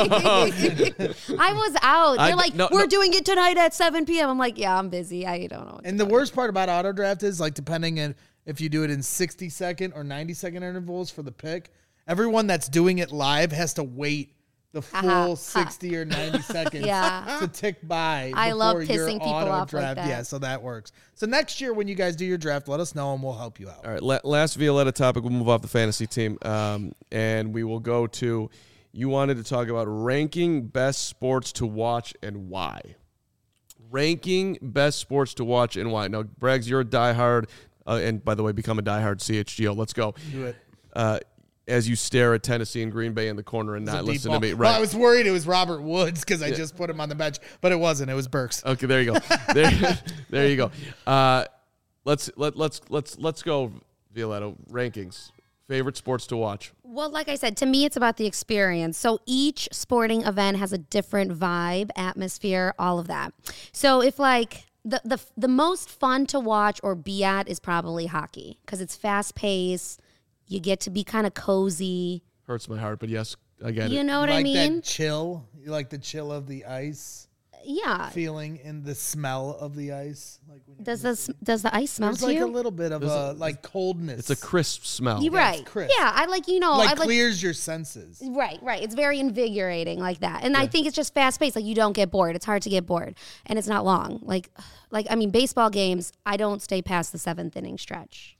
I was out. They're like, no, we're no. doing it tonight at 7 p.m. I'm like, yeah, I'm busy. I don't know. And the worst part about auto draft is like depending on if you do it in 60-second or 90-second intervals for the pick, everyone that's doing it live has to wait the full 60 or 90 seconds Yeah. to tick by. I love before your pissing people auto off like draft. that. Yeah, so that works. So next year when you guys do your draft, let us know and we'll help you out. All right, last Violetta topic. We'll move off the fantasy team, and we will go to. You wanted to talk about ranking best sports to watch and why. Ranking best sports to watch and why. Now, Braggs, you're a diehard, and by the way, become a diehard CHGO. Let's go. Do it. As you stare at Tennessee and Green Bay in the corner and not listen to me. Well, Right. I was worried it was Robert Woods because I just put him on the bench, but it wasn't. It was Burks. Okay, there you go. There you go. Let's go, Violetta. Rankings. Favorite sports to watch. Well, like I said, to me, it's about the experience. So each sporting event has a different vibe, atmosphere, all of that. So if like the most fun to watch or be at is probably hockey because it's fast paced. You get to be kind of cozy. Hurts my heart, but yes, I get You it. know what You I like mean? that chill? You like the chill of the ice Yeah. feeling and the smell of the ice? Like when Does the ice smell there's to like you? a little bit of a like coldness. It's a crisp smell. You're Yeah, right. it's crisp. Yeah, I like like I like clears your senses. Right. It's very invigorating like that. And I think it's just fast paced. Like you don't get bored. It's hard to get bored. And it's not long. Like I mean, baseball games, I don't stay past the 7th inning stretch.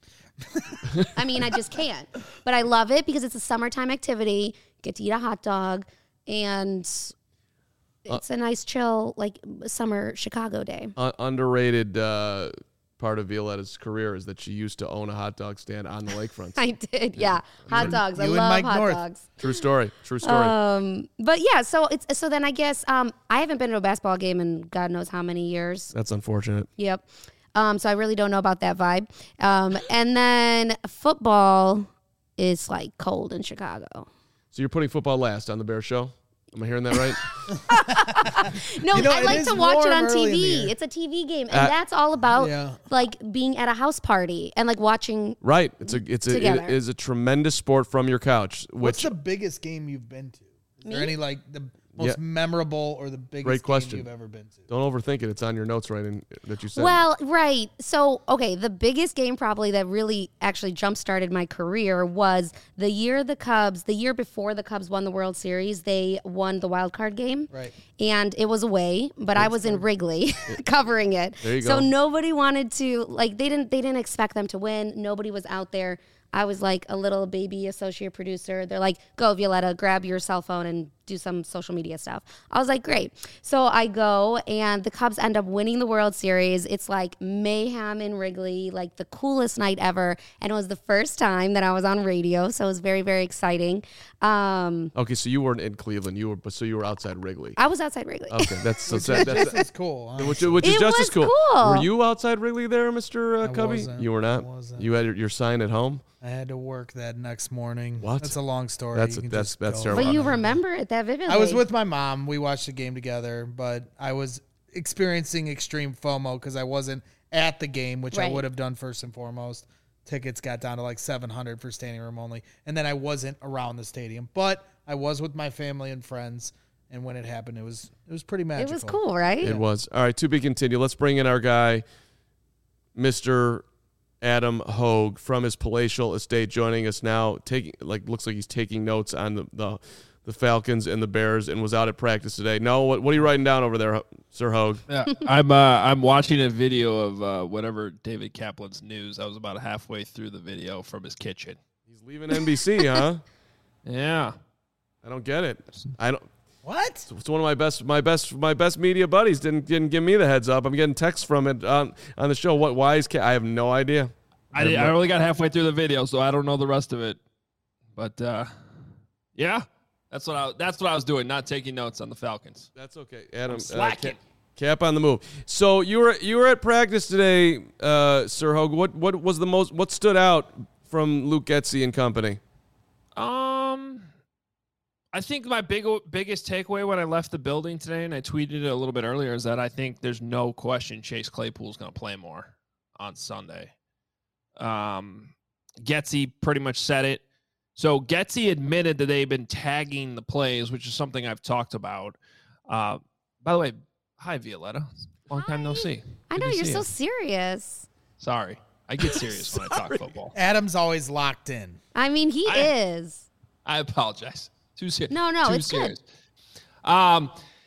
I mean, I just can't. But I love it because it's a summertime activity. Get to eat a hot dog and it's a nice chill like summer Chicago day. Underrated part of Violetta's career is that she used to own a hot dog stand on the lakefront. I did, yeah. Hot dogs. I you and love Mike hot North. dogs. True story. True story. But yeah, so then I guess I haven't been to a basketball game in God knows how many years. That's unfortunate. Yep. So I really don't know about that vibe. And then football is like cold in Chicago. So you're putting football last on the Bear Show? Am I hearing that right? No, You know, I it like is to watch it warm on early in the TV. year. It's a TV game, and that's all about Yeah. like being at a house party and like watching. Right. It Together. is a tremendous sport from your couch. What's Which the biggest game you've been to? Is there Me? any like the most Yeah. memorable or the biggest Great game question. you've ever been to? don't overthink it. It's on your notes right in that you said. Well, right. So, okay, the biggest game probably that really actually jump-started my career was the year before the Cubs won the World Series, they won the wild card game. Right. And it was away, but I was in Wrigley covering it. There you So go. nobody wanted to like they didn't expect them to win. Nobody was out there. I was like a little baby associate producer. They're like, "Go, Violetta, grab your cell phone and do some social media stuff." I was like, "Great." So I go, and the Cubs end up winning the World Series. It's like mayhem in Wrigley, like the coolest night ever. And it was the first time that I was on radio, so it was very, very exciting. Okay, so you weren't in Cleveland. You were outside Wrigley. I was outside Wrigley. Okay, that's so sad. This is cool. Huh? Which is It just was as cool. cool. Were you outside Wrigley there, Mr. Cubby? wasn't. You were not. I wasn't. You had your sign at home. I had to work that next morning. What? That's a long story. That's- You can that's- just that's go terrible. But on you it. remember it that vividly. I was with my mom. We watched the game together, but I was experiencing extreme FOMO because I wasn't at the game, which I Right. would have done first and foremost. Tickets got down to like 700 for standing room only, and then I wasn't around the stadium, but I was with my family and friends. And when it happened, it was pretty It magical. was cool, right? It was. All right, to be continued. Let's bring in our guy, Mr. Adam Hogue from his palatial estate, joining us now. Looks like he's taking notes on the Falcons and the Bears, and was out at practice today. No, what are you writing down over there, Sir Hogue? Yeah, I'm watching a video of whatever David Kaplan's news. I was about halfway through the video from his kitchen. He's leaving NBC, huh? Yeah. I don't get it. I don't. What? It's one of my best media buddies didn't give me the heads up. I'm getting texts from it on the show. Why is I have no idea. I only got halfway through the video, so I don't know the rest of it. But Yeah, that's what I was doing, not taking notes on the Falcons. That's okay, Adam. Slacking. Cap on the move. So you were at practice today, Sir Hogue. What stood out from Luke Getsy and company? I think my biggest takeaway when I left the building today, and I tweeted it a little bit earlier, is that I think there's no question Chase Claypool's going to play more on Sunday. Getsy pretty much said it. So Getsy admitted that they've been tagging the plays, which is something I've talked about. By the way, hi, Violetta. Long time no see. I know, you're so serious. Sorry. I get serious when I talk football. Adam's always locked in. I mean, he is. I apologize. Too serious. No, Too it's serious. good.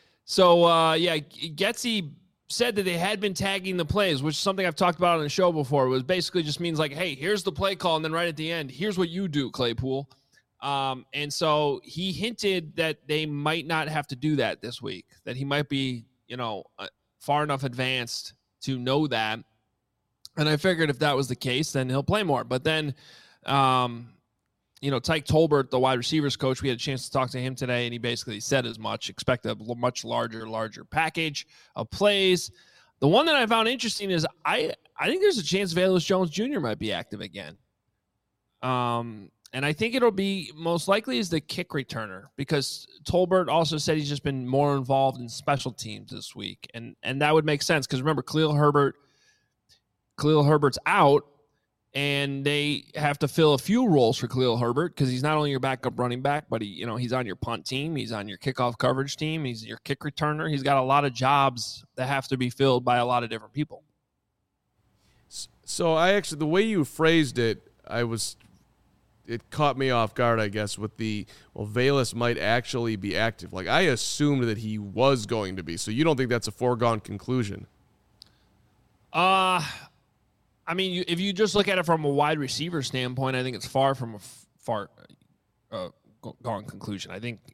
Getsy said that they had been tagging the plays, which is something I've talked about on the show before. It was basically just means like, hey, here's the play call, and then right at the end, here's what you do, Claypool. And so he hinted that they might not have to do that this week, that he might be, far enough advanced to know that. And I figured if that was the case, then he'll play more. But then, Tyke Tolbert, the wide receivers coach, we had a chance to talk to him today, and he basically said as much. Expect a much larger package of plays. The one that I found interesting is I think there's a chance Velus Jones Jr. might be active again. And I think it'll be most likely as the kick returner, because Tolbert also said he's just been more involved in special teams this week. And that would make sense because remember, Khalil Herbert's out, and they have to fill a few roles for Khalil Herbert because he's not only your backup running back, but he's on your punt team, he's on your kickoff coverage team, he's your kick returner. He's got a lot of jobs that have to be filled by a lot of different people. So the way you phrased it, it caught me off guard, I guess, with Velus might actually be active. Like, I assumed that he was going to be. So you don't think that's a foregone conclusion? I mean, if you just look at it from a wide receiver standpoint, I think it's far from a gone conclusion. I think,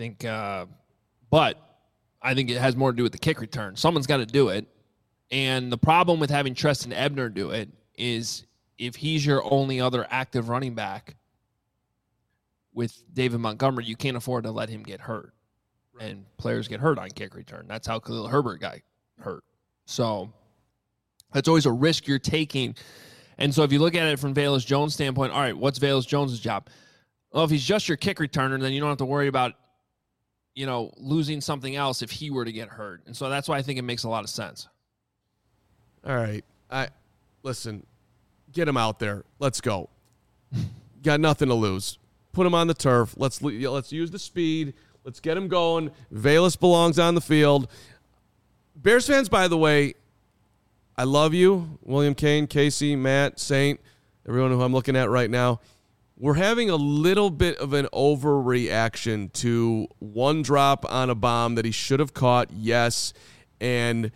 but I think it has more to do with the kick return. Someone's got to do it. And the problem with having Treston Ebner do it is if he's your only other active running back with David Montgomery, you can't afford to let him get hurt. Right. And players get hurt on kick return. That's how Khalil Herbert got hurt. So that's always a risk you're taking. And so if you look at it from Velus Jones' standpoint, all right, what's Velus Jones' job? Well, if he's just your kick returner, then you don't have to worry about, losing something else if he were to get hurt. And so that's why I think it makes a lot of sense. All right. Listen, get him out there. Let's go. Got nothing to lose. Put him on the turf. Let's use the speed. Let's get him going. Velus belongs on the field. Bears fans, by the way, I love you, William Kane, Casey, Matt, Saint, everyone who I'm looking at right now. We're having a little bit of an overreaction to one drop on a bomb that he should have caught, yes, and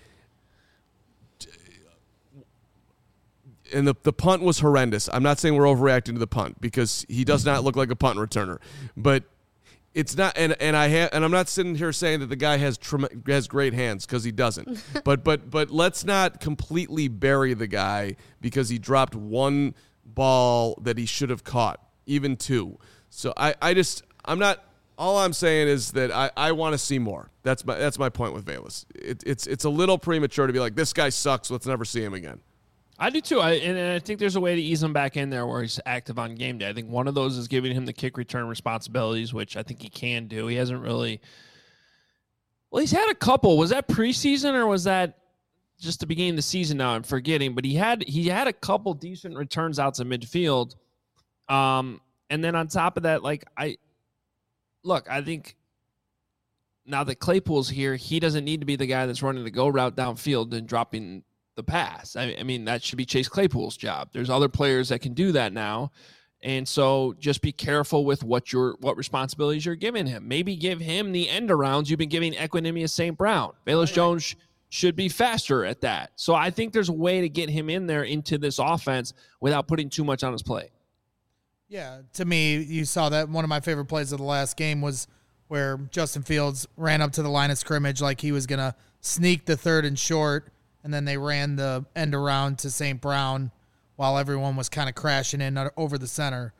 the punt was horrendous. I'm not saying we're overreacting to the punt because he does not look like a punt returner, but it's not. And I'm not sitting here saying that the guy has great hands because he doesn't. but let's not completely bury the guy because he dropped one ball that he should have caught, even two. So I'm not. All I'm saying is that I want to see more. That's my point with Velus. It's a little premature to be like, this guy sucks. Let's never see him again. I do too. And I think there's a way to ease him back in there where he's active on game day. I think one of those is giving him the kick return responsibilities, which I think he can do. He hasn't really. Well, he's had a couple. Was that preseason or was that just the beginning of the season? Now I'm forgetting, but he had a couple decent returns out to midfield. And then on top of that, I think now that Claypool's here, he doesn't need to be the guy that's running the go route downfield and dropping the pass. I mean, that should be Chase Claypool's job. There's other players that can do that now. And so just be careful with what responsibilities you're giving him. Maybe give him the end arounds you've been giving Equanimeous St. Brown. Velus Jones should be faster at that. So I think there's a way to get him in there into this offense without putting too much on his plate. Yeah, to me, you saw that one of my favorite plays of the last game was where Justin Fields ran up to the line of scrimmage like he was going to sneak the third and short, and then they ran the end around to St. Brown while everyone was kind of crashing in over the center.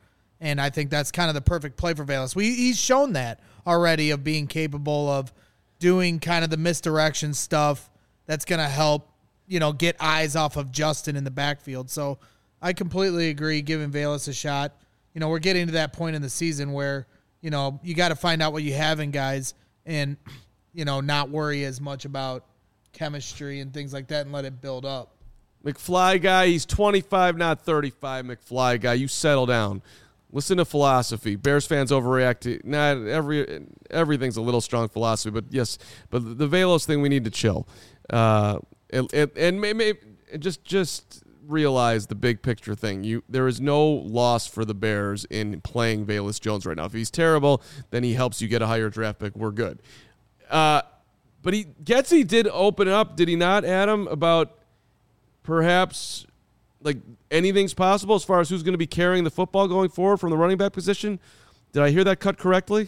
And I think that's kind of the perfect play for Velus. He's shown that already of being capable of doing kind of the misdirection stuff that's going to help, get eyes off of Justin in the backfield. So I completely agree giving Velus a shot. We're getting to that point in the season where, you got to find out what you have in guys and, not worry as much about chemistry and things like that and let it build up. McFly guy, he's 25, not 35. McFly guy, you settle down. Listen to philosophy. Bears fans overreact to everything's a little strong philosophy, but yes, but the Velus thing, we need to chill. And maybe just realize the big picture thing. There is no loss for the Bears in playing Velus Jones right now. If he's terrible, then he helps you get a higher draft pick. We're good. But Getsy did open up, did he not, Adam, about perhaps like anything's possible as far as who's going to be carrying the football going forward from the running back position? Did I hear that cut correctly?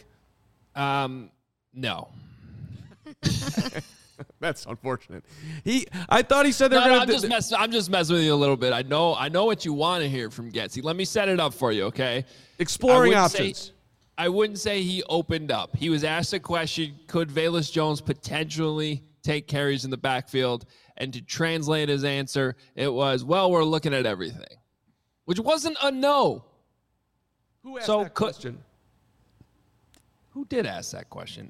No. That's unfortunate. I thought he said I'm just messing with you a little bit. I know what you want to hear from Getsy. Let me set it up for you, okay? Exploring options. I wouldn't say he opened up. He was asked a question, could Velus Jones potentially take carries in the backfield? And to translate his answer, it was, well, we're looking at everything, which wasn't a no. Who asked that question? Who did ask that question?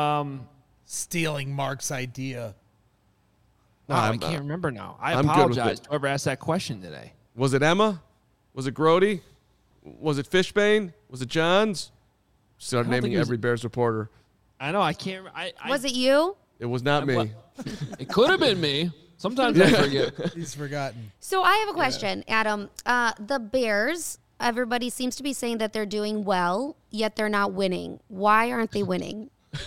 Stealing Mark's idea. I can't remember now. I apologize to whoever asked that question today. Was it Emma? Was it Grody? Was it Fishbane? Was it Johns? Started naming every Bears reporter. I know. I can't. Was it you? It was not me. It could have been me. Sometimes I forget. He's forgotten. So I have a question, Adam. The Bears, everybody seems to be saying that they're doing well, yet they're not winning. Why aren't they winning?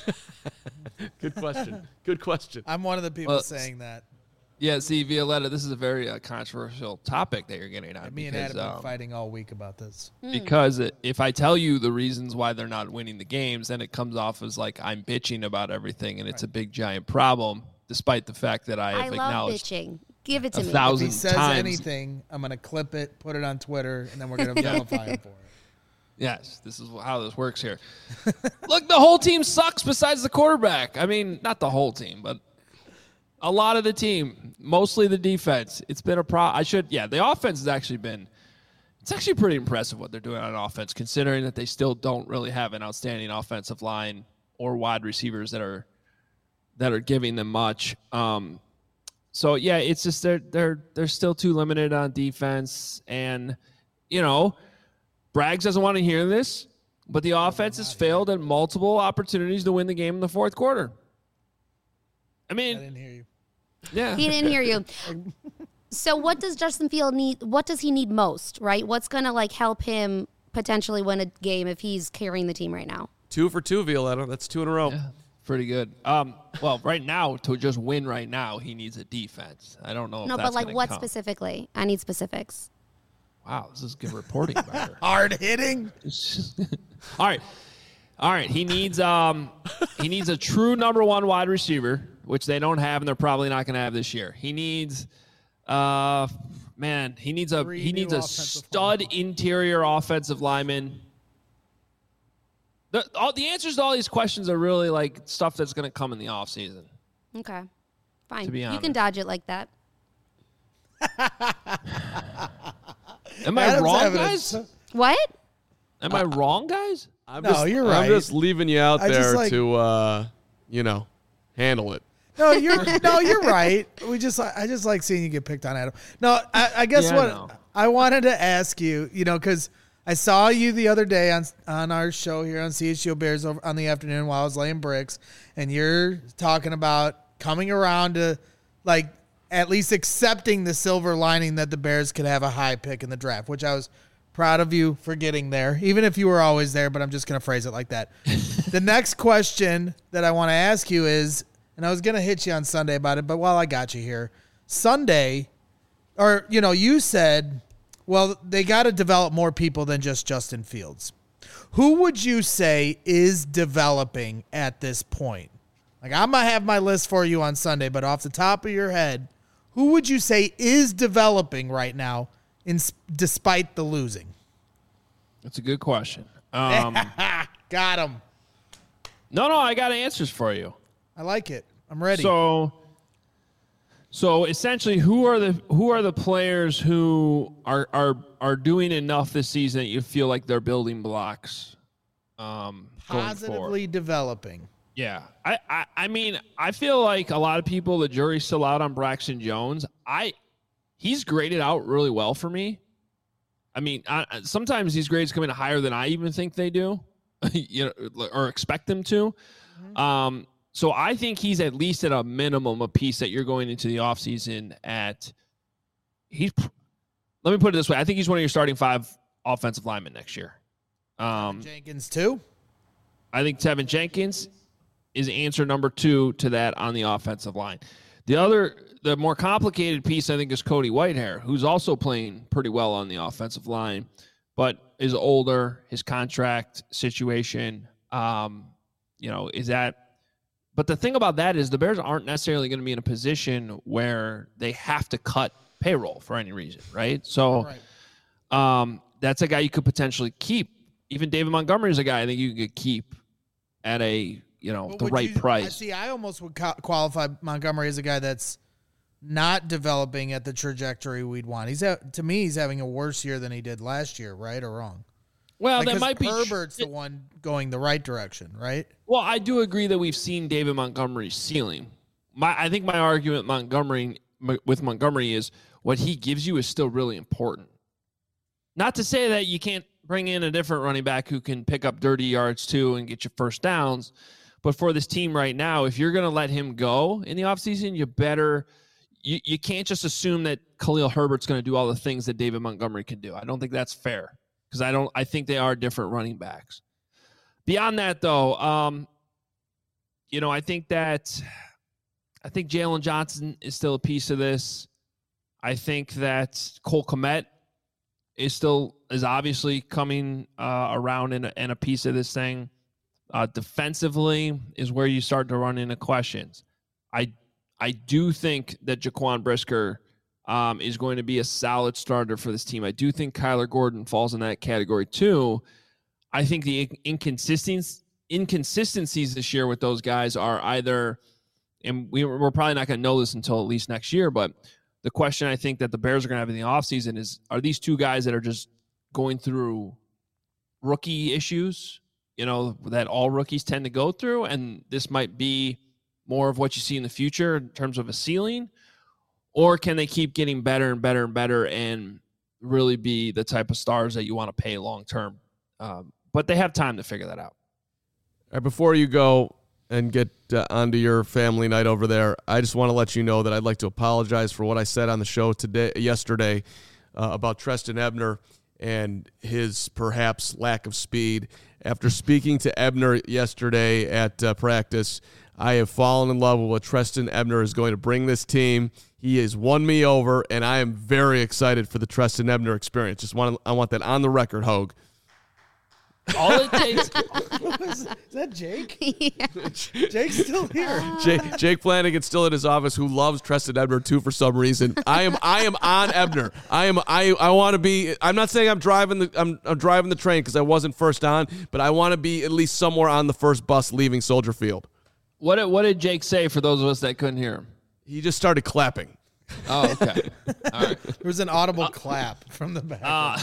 Good question. I'm one of the people saying that. Yeah, see, Violetta, this is a very controversial topic that you're getting on. Me and Adam have been fighting all week about this. Because if I tell you the reasons why they're not winning the games, then it comes off as like I'm bitching about everything, and it's a big, giant problem, despite the fact that I have acknowledged bitching. Give it to me. 1,000 If he says times. anything, I'm going to clip it, put it on Twitter, and then we're going to vilify him for it. Yes, this is how this works here. Look, the whole team sucks besides the quarterback. I mean, not the whole team, but a lot of the team, mostly the defense. It's been a problem. The offense has actually been, it's actually pretty impressive what they're doing on offense, considering that they still don't really have an outstanding offensive line or wide receivers that are giving them much. So yeah, it's just they're still too limited on defense, and Braggs doesn't want to hear this, but the offense has failed at multiple opportunities to win the game in the fourth quarter. I didn't hear you. Yeah. He didn't hear you. So what does Justin Field need? What does he need most, right? What's going to help him potentially win a game if he's carrying the team right now? 2 for 2, Violetta. That's 2 in a row. Yeah, pretty good. Well, right now, to just win right now, he needs a defense. I don't know if that's going to what come. Specifically? I need specifics. Wow, this is good reporting by her. Hard hitting. All right. He needs a true number one wide receiver, which they don't have, and they're probably not going to have this year. He needs, a stud interior offensive lineman. The answers to all these questions are really like stuff that's going to come in the offseason. Okay, fine. To be honest. You can dodge it like that. Am I wrong, guys? What? Am I wrong, guys? You're right. I'm just leaving you out there to, handle it. No, you're right. I just like seeing you get picked on, Adam. No, I guess I wanted to ask you, because I saw you the other day on our show here on CHGO Bears over on the afternoon while I was laying bricks, and you're talking about coming around to at least accepting the silver lining that the Bears could have a high pick in the draft, which I was proud of you for getting there, even if you were always there, but I'm just going to phrase it like that. The next question that I want to ask you is, and I was going to hit you on Sunday about it, but while I got you here, Sunday, you said, well, they got to develop more people than just Justin Fields. Who would you say is developing at this point? I'm going to have my list for you on Sunday, but off the top of your head, who would you say is developing right now despite the losing? That's a good question. Got him. No, I got answers for you. I like it. I'm ready. So essentially, who are the players who are doing enough this season that you feel like they're building blocks? Positively developing. Yeah, I mean, I feel like a lot of people, the jury's still out on Braxton Jones. He's graded out really well for me. I mean, sometimes these grades come in higher than I even think they do, or expect them to. Mm-hmm. So I think he's at least at a minimum a piece that you're going into the offseason at. Let me put it this way: I think he's one of your starting 5 offensive linemen next year. Jenkins too. I think Tevin Jenkins is answer number 2 to that on the offensive line. The more complicated piece, I think, is Cody Whitehair, who's also playing pretty well on the offensive line, but is older. His contract situation, is that. But the thing about that is the Bears aren't necessarily going to be in a position where they have to cut payroll for any reason, right? So that's a guy you could potentially keep. Even David Montgomery is a guy I think you could keep at the right price. I almost would qualify Montgomery as a guy that's not developing at the trajectory we'd want. To me, he's having a worse year than he did last year, right or wrong? Well, that might be Herbert's the one going the right direction, right? Well, I do agree that we've seen David Montgomery's ceiling. I think my argument with Montgomery is what he gives you is still really important. Not to say that you can't bring in a different running back who can pick up dirty yards too and get you first downs. But for this team right now, if you're going to let him go in the offseason, you can't just assume that Khalil Herbert's going to do all the things that David Montgomery can do. I don't think that's fair because I think they are different running backs. Beyond that, though, I think Jalen Johnson is still a piece of this. I think that Cole Kmet is obviously coming around and a piece of this thing. Defensively is where you start to run into questions. I do think that Jaquan Brisker is going to be a solid starter for this team. I do think Kyler Gordon falls in that category too. I think the inconsistencies this year with those guys are either, and we're probably not going to know this until at least next year, but the question I think that the Bears are going to have in the offseason is, are these two guys that are just going through rookie issues, that all rookies tend to go through, and this might be more of what you see in the future in terms of a ceiling, or can they keep getting better and better and better and really be the type of stars that you want to pay long term? But they have time to figure that out. All right, before you go and get onto your family night over there, I just want to let you know that I'd like to apologize for what I said on the show yesterday about Trestan Ebner and his perhaps lack of speed. After speaking to Ebner yesterday at practice, I have fallen in love with what Trestan Ebner is going to bring this team. He has won me over, and I am very excited for the Trestan Ebner experience. I want that on the record, Hogue. All it takes. Is that Jake? Yeah. Jake's still here. Jake Flanagan's still at his office, who loves Trestan Ebner too for some reason. I am on Ebner. I want to be. I'm not saying I'm driving the train because I wasn't first on, but I want to be at least somewhere on the first bus leaving Soldier Field. What did Jake say for those of us that couldn't hear him? He just started clapping. Oh, okay. All right. There was an audible clap from the back.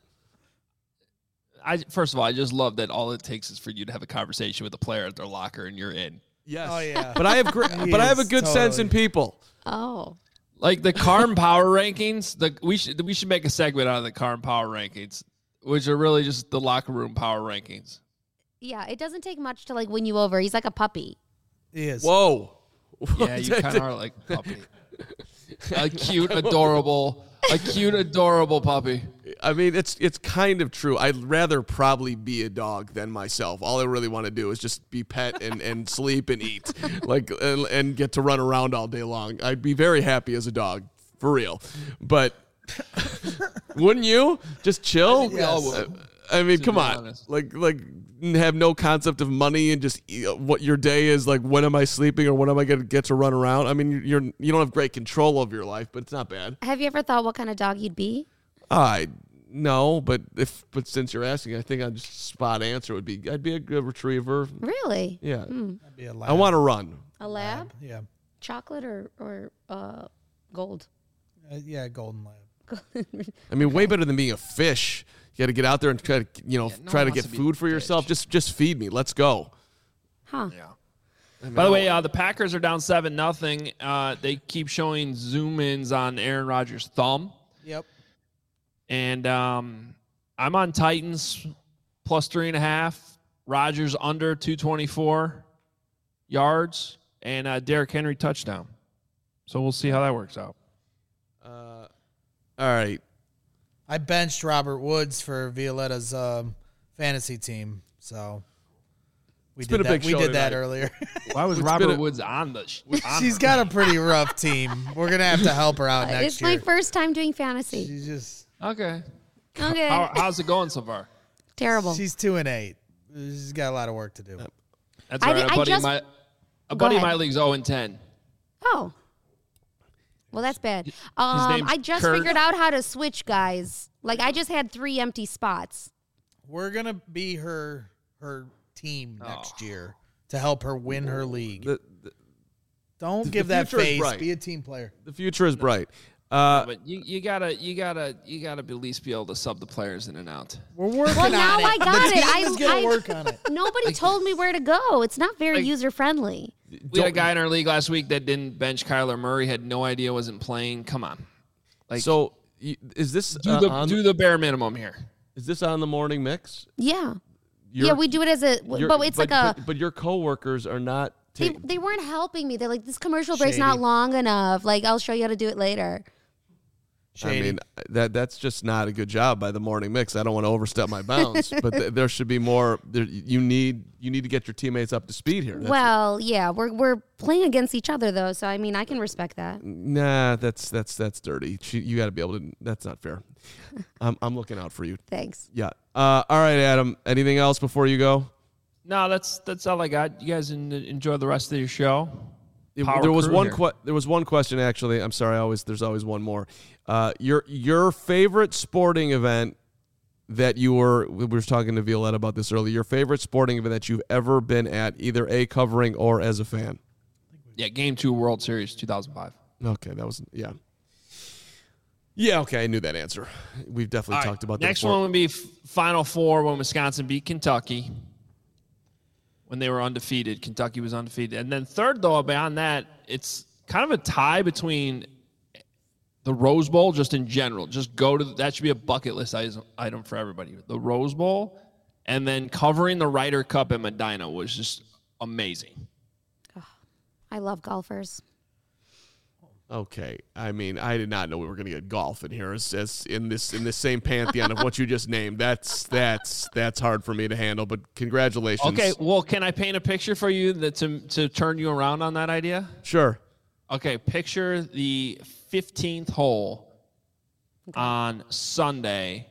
First of all, I just love that all it takes is for you to have a conversation with a player at their locker and you're in. Yes. Oh yeah. But I have a good sense in people. Oh. Like the Carm Power Rankings. We should make a segment out of the Carm Power Rankings, which are really just the locker room power rankings. Yeah, it doesn't take much to win you over. He's like a puppy. He is. Whoa. Yeah, you kind of are like a puppy. A cute, adorable puppy. I mean, it's kind of true. I'd rather probably be a dog than myself. All I really want to do is just be pet and sleep and eat, and get to run around all day long. I'd be very happy as a dog, for real. But wouldn't you just chill? I think we all would. I mean, come on, honest. like have no concept of money and just what your day is like. When am I sleeping or when am I going to get to run around? I mean, you don't have great control of your life, but it's not bad. Have you ever thought what kind of dog you'd be? No, but since you're asking, I think I'd just spot answer would be I'd be a good retriever. Really? Yeah. That'd be a lab. I want to run. A lab? Yeah. Chocolate or gold? Yeah, golden lab. I mean, way better than being a fish. You got to get out there and try to, try to wants get to be food a for yourself. Just feed me. Let's go. Huh. Yeah. By the way, the Packers are down 7-0. They keep showing zoom-ins on Aaron Rodgers' thumb. Yep. And I'm on Titans plus 3.5. Rodgers under 224 yards. And Derrick Henry touchdown. So we'll see how that works out. All right. I benched Robert Woods for Violetta's fantasy team, so we been a big We show did that tonight. earlier. Why was Robert Woods on the She's got a pretty rough team. We're gonna have to help her out next It's year. my first time doing fantasy. She's just Okay. Okay. How's it going so far? Terrible. she's 2-8. She's got a lot of work to do. That's I all right. did- A I buddy, just- a Go buddy of ahead. my league's 0-10. Oh. Well, that's bad. name's I just Kurt. figured out how to switch, guys. Like, I just had 3 empty spots. We're gonna be her team Oh. next year to help her win her league. Don't give the that future is face. bright. Be a team player. The future is bright. But you gotta at least be able to sub the players in and out. We're working Well, on now it. I got the it. team is gonna work on it. Nobody told me where to go. It's not very Like- user-friendly. We had a guy in our league last week that didn't bench Kyler Murray, had no idea wasn't playing. Come on. Like, So is this do the bare minimum here. is this on the morning mix? Yeah. You're- Yeah, we do it as a, You're- but it's like a, but your coworkers are not. they weren't helping me. They're like, this commercial break's not Shady. long enough. Like, I'll show you how to do it later. I Shady. mean, that's just not a good job by the morning mix. I don't want to overstep my bounds, but there should be more. You need to get your teammates up to speed here. Well, yeah, we're playing against each other though, so I mean, I can respect that. Nah, that's dirty. You got to be able to. That's not fair. I'm looking out for you. Thanks. Yeah. All right, Adam. Anything else before you go? No, that's all I got. You guys enjoy the rest of your show. Power There was crew one. here. There was one question actually. I'm sorry. There's always one more. Your favorite sporting event that we were talking to Violetta about this earlier. Your favorite sporting event that you've ever been at, either covering or as a fan. Yeah, Game 2 World Series 2005. Okay, that was yeah. Yeah, okay, I knew that answer. We've definitely All right, talked about that next before. one would be Final Four when Wisconsin beat Kentucky. When they were undefeated, Kentucky was undefeated. And then third, though, beyond that, it's kind of a tie between the Rose Bowl, just in general. Just go to that should be a bucket list item for everybody. The Rose Bowl, and then covering the Ryder Cup at Medina was just amazing. I love golfers. Okay, I mean, I did not know we were going to get golf in here as in this same pantheon of what you just named. That's hard for me to handle. But congratulations. Okay, well, can I paint a picture for you to turn you around on that idea? Sure. Okay, picture the 15th hole on Sunday.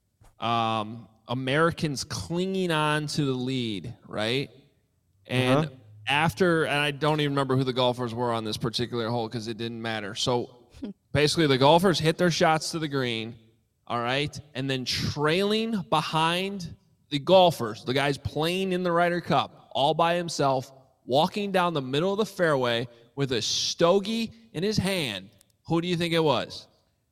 Americans clinging on to the lead, right? And and I don't even remember who the golfers were on this particular hole because it didn't matter. So basically the golfers hit their shots to the green, all right? And then trailing behind the golfers, the guys playing in the Ryder Cup, all by himself, walking down the middle of the fairway with a stogie in his hand. Who do you think it was?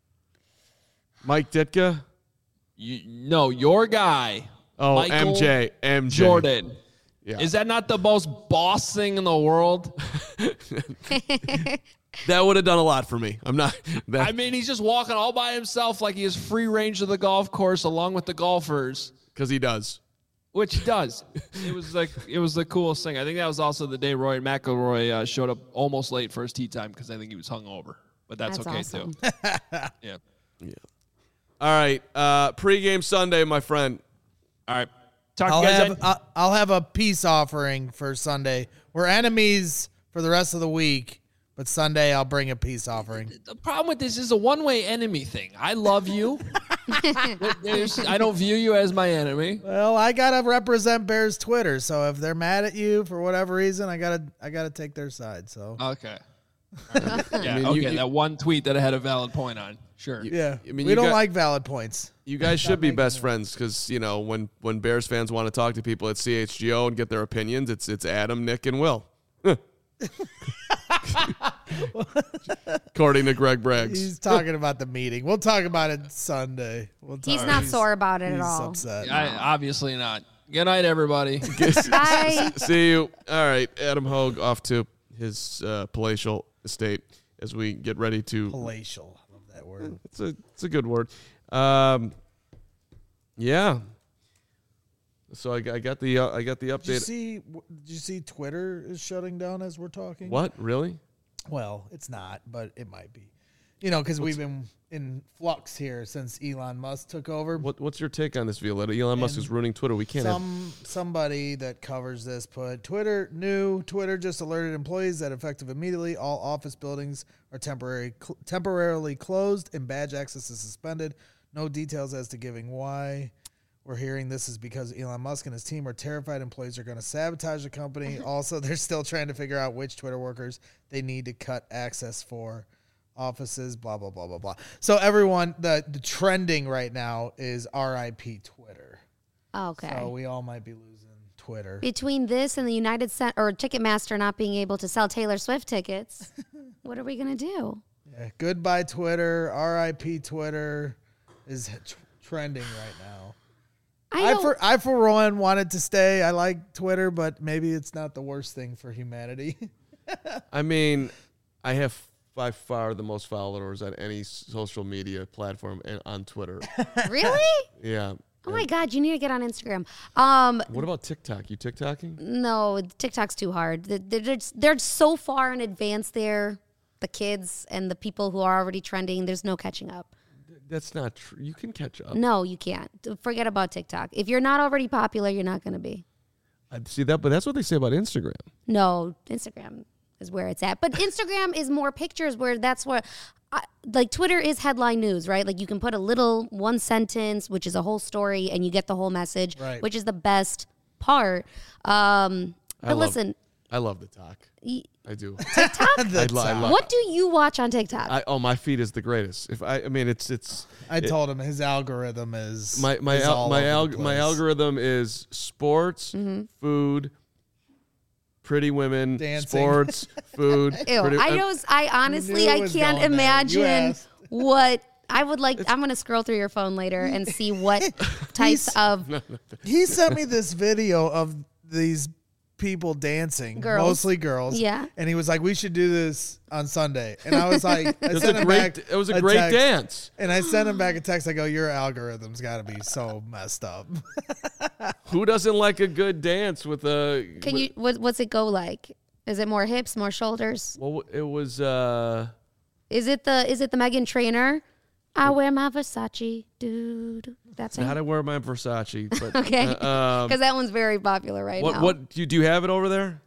Mike Ditka. No, your guy. Oh, Michael MJ. Jordan. Yeah. Is that not the most boss thing in the world? That would have done a lot for me. I'm not. I mean, he's just walking all by himself like he has free range of the golf course along with the golfers, because he does. which he does. It was the coolest thing. I think that was also the day Rory McIlroy showed up almost late for his tee time because I think he was hungover. But that's okay awesome. too. Yeah. All right. Pre-game Sunday, my friend. All right. Talk to you guys. I'll have a peace offering for Sunday. We're enemies for the rest of the week, but Sunday I'll bring a peace offering. The problem with this is a one-way enemy thing. I love you. I don't view you as my enemy. Well, I gotta represent Bears Twitter, so if they're mad at you for whatever reason, I gotta take their side. So Okay. Yeah, mean, okay, that one tweet that I had a valid point on. Sure. Yeah, I mean, we you don't got- like valid points. You guys should be best friends because, when Bears fans want to talk to people at CHGO and get their opinions, it's Adam, Nick, and Will. According to Greg Braggs. He's talking about the meeting. We'll talk about it Sunday. He's not sore about it at He's all. upset. Obviously not. Good night, everybody. Bye. See you. All right, Adam Hogue off to his palatial estate as we get ready to. Palatial. I love that word. It's a good word. Yeah. So I got the update. Did you see Twitter is shutting down as we're talking? What, really? Well, it's not, but it might be. Because we've been in flux here since Elon Musk took over. What's your take on this, Violetta? Elon Musk is ruining Twitter. We can't have. Somebody that covers this put Twitter just alerted employees that effective immediately all office buildings are temporarily closed and badge access is suspended. No details as to giving why. We're hearing this is because Elon Musk and his team are terrified employees are going to sabotage the company. Also, they're still trying to figure out which Twitter workers they need to cut access for offices, blah, blah, blah, blah, blah. So everyone, the trending right now is RIP Twitter. Okay. So we all might be losing Twitter. Between this and the Ticketmaster not being able to sell Taylor Swift tickets, what are we going to do? Yeah, goodbye Twitter, RIP Twitter is trending right now. I for one wanted to stay. I like Twitter, but maybe it's not the worst thing for humanity. I mean, I have by far the most followers on any social media platform and on Twitter. Really? Yeah. Oh my God, you need to get on Instagram. What about TikTok? You TikToking? No, TikTok's too hard. They're so far in advance there, the kids and the people who are already trending. There's no catching up. That's not true. You can catch up. No, you can't. Forget about TikTok. If you're not already popular, you're not going to be. I see that, but that's what they say about Instagram. No, Instagram is where it's at. But Instagram is more pictures where that's where, like Twitter is headline news, right? Like you can put a little one sentence, which is a whole story, and you get the whole message, Right. which is the best part. But listen. I love the talk. I do. TikTok? I love What do you watch on TikTok? my feed is the greatest. I told him his algorithm is my is all over the place. algorithm is sports, food, pretty women, Dancing. sports, food. Ew, pretty- I honestly, You knew I it was can't going there. You imagine asked. what I would like. I'm going to scroll through your phone later and see what types of He sent me this video of these people dancing, Girls. mostly girls. Yeah. And he was like, "We should do this on Sunday." And I was like, it was a great text, dance. And I sent him back a text. I go, "Your algorithm's got to be so messed up." Who doesn't like a good dance with a? Can you? What's it go like? Is it more hips, more shoulders? Well, it was. Is it the Meghan Trainor? I wear my Versace, dude. That's How it. to wear my Versace, but Okay, because that one's very popular right now. what do you have it over there?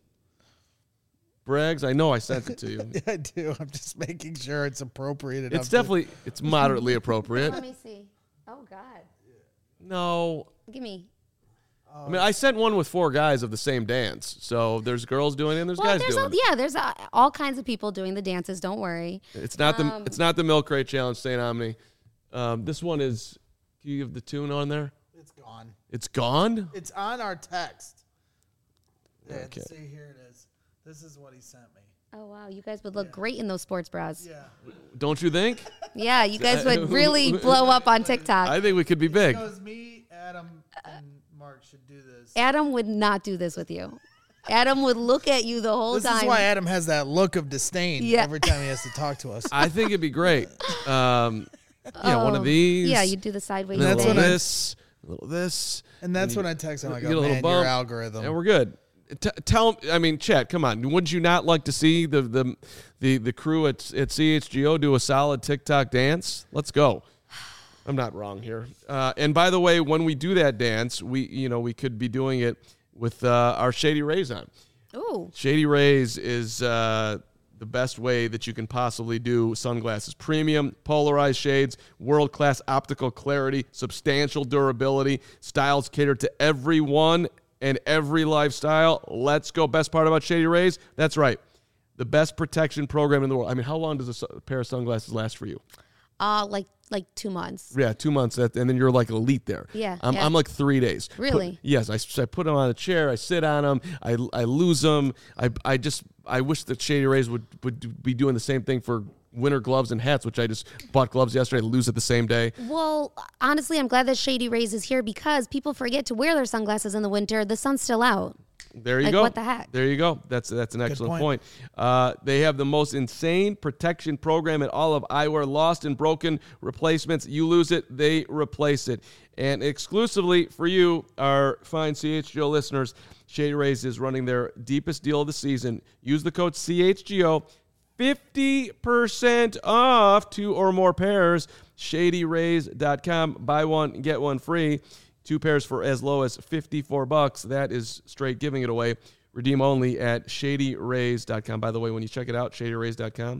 Braggs, I know I sent it to you. Yeah, I do. I'm just making sure it's appropriate enough. It's moderately appropriate. Let me see. Oh God, No, give me. I mean I sent one with 4 guys of the same dance. So there's girls doing it and there's guys doing it. There's all kinds of people doing the dances. Don't worry. It's not the milk crate challenge, St. Omni. This one is. Can you give the tune on there? It's gone. It's gone. It's on our text. Yeah, Okay. see, here it is. This is what he sent me. Oh wow, you guys would look great in those sports bras. Yeah. Don't you think? Yeah, you guys would really blow up on TikTok. I think we could be big. Because me, Adam, and Mark should do this. Adam would not do this with you. Adam would look at you the whole This time. is why Adam has that look of disdain every time he has to talk to us. I think it'd be great. One of these. Yeah, you do the sideways. A little That's when thing. this. A little this. And that's when I text him. I get a go, little man, bump, your algorithm. And we're good. Chet, come on. Would you not like to see the crew at CHGO do a solid TikTok dance? Let's go. I'm not wrong here. And by the way, when we do that dance, we could be doing it with our Shady Rays on. Ooh. Shady Rays is the best way that you can possibly do sunglasses. Premium, polarized shades, world-class optical clarity, substantial durability, styles cater to everyone and every lifestyle. Let's go. Best part about Shady Rays? That's right. the best protection program in the world. I mean, how long does a pair of sunglasses last for you? Like 2 months. Yeah, 2 months, and then you're like elite there. Yeah, I'm like 3 days. Really? Yes, I put them on a chair. I sit on them. I lose them. I wish that Shady Rays would be doing the same thing for winter gloves and hats, which I just bought gloves yesterday. I lose it the same day. Well, honestly, I'm glad that Shady Rays is here because people forget to wear their sunglasses in the winter. The sun's still out. There you Like, go. what the heck? There you go. That's an excellent point. They have the most insane protection program in all of eyewear. Lost and broken replacements. You lose it, they replace it. And exclusively for you, our fine CHGO listeners, Shady Rays is running their deepest deal of the season. Use the code CHGO. 50% off 2 or more pairs. ShadyRays.com. Buy one, get one free. 2 pairs for as low as $54. That is straight giving it away. Redeem only at ShadyRays.com. By the way, when you check it out, ShadyRays.com,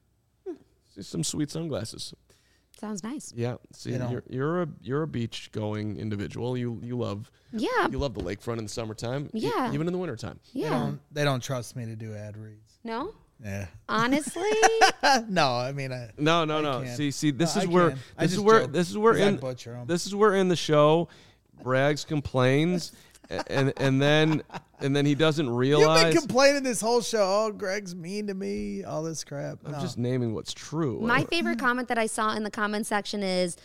see some sweet sunglasses. Sounds nice. Yeah, see, you're a beach going individual. You love Yeah. the lakefront in the summertime. Yeah. Even in the wintertime. Yeah. They don't trust me to do ad reads. No? Yeah. Honestly? No, I mean, No. can't. See, this No, is I where can. I this is just where joke, this is where 'cause I in butcher 'em. this is where in the show Braggs complains and then he doesn't You've realize. been complaining this whole show. Oh, Greg's mean to me. All this crap. I'm No. just naming what's true. My favorite comment that I saw in the comment section is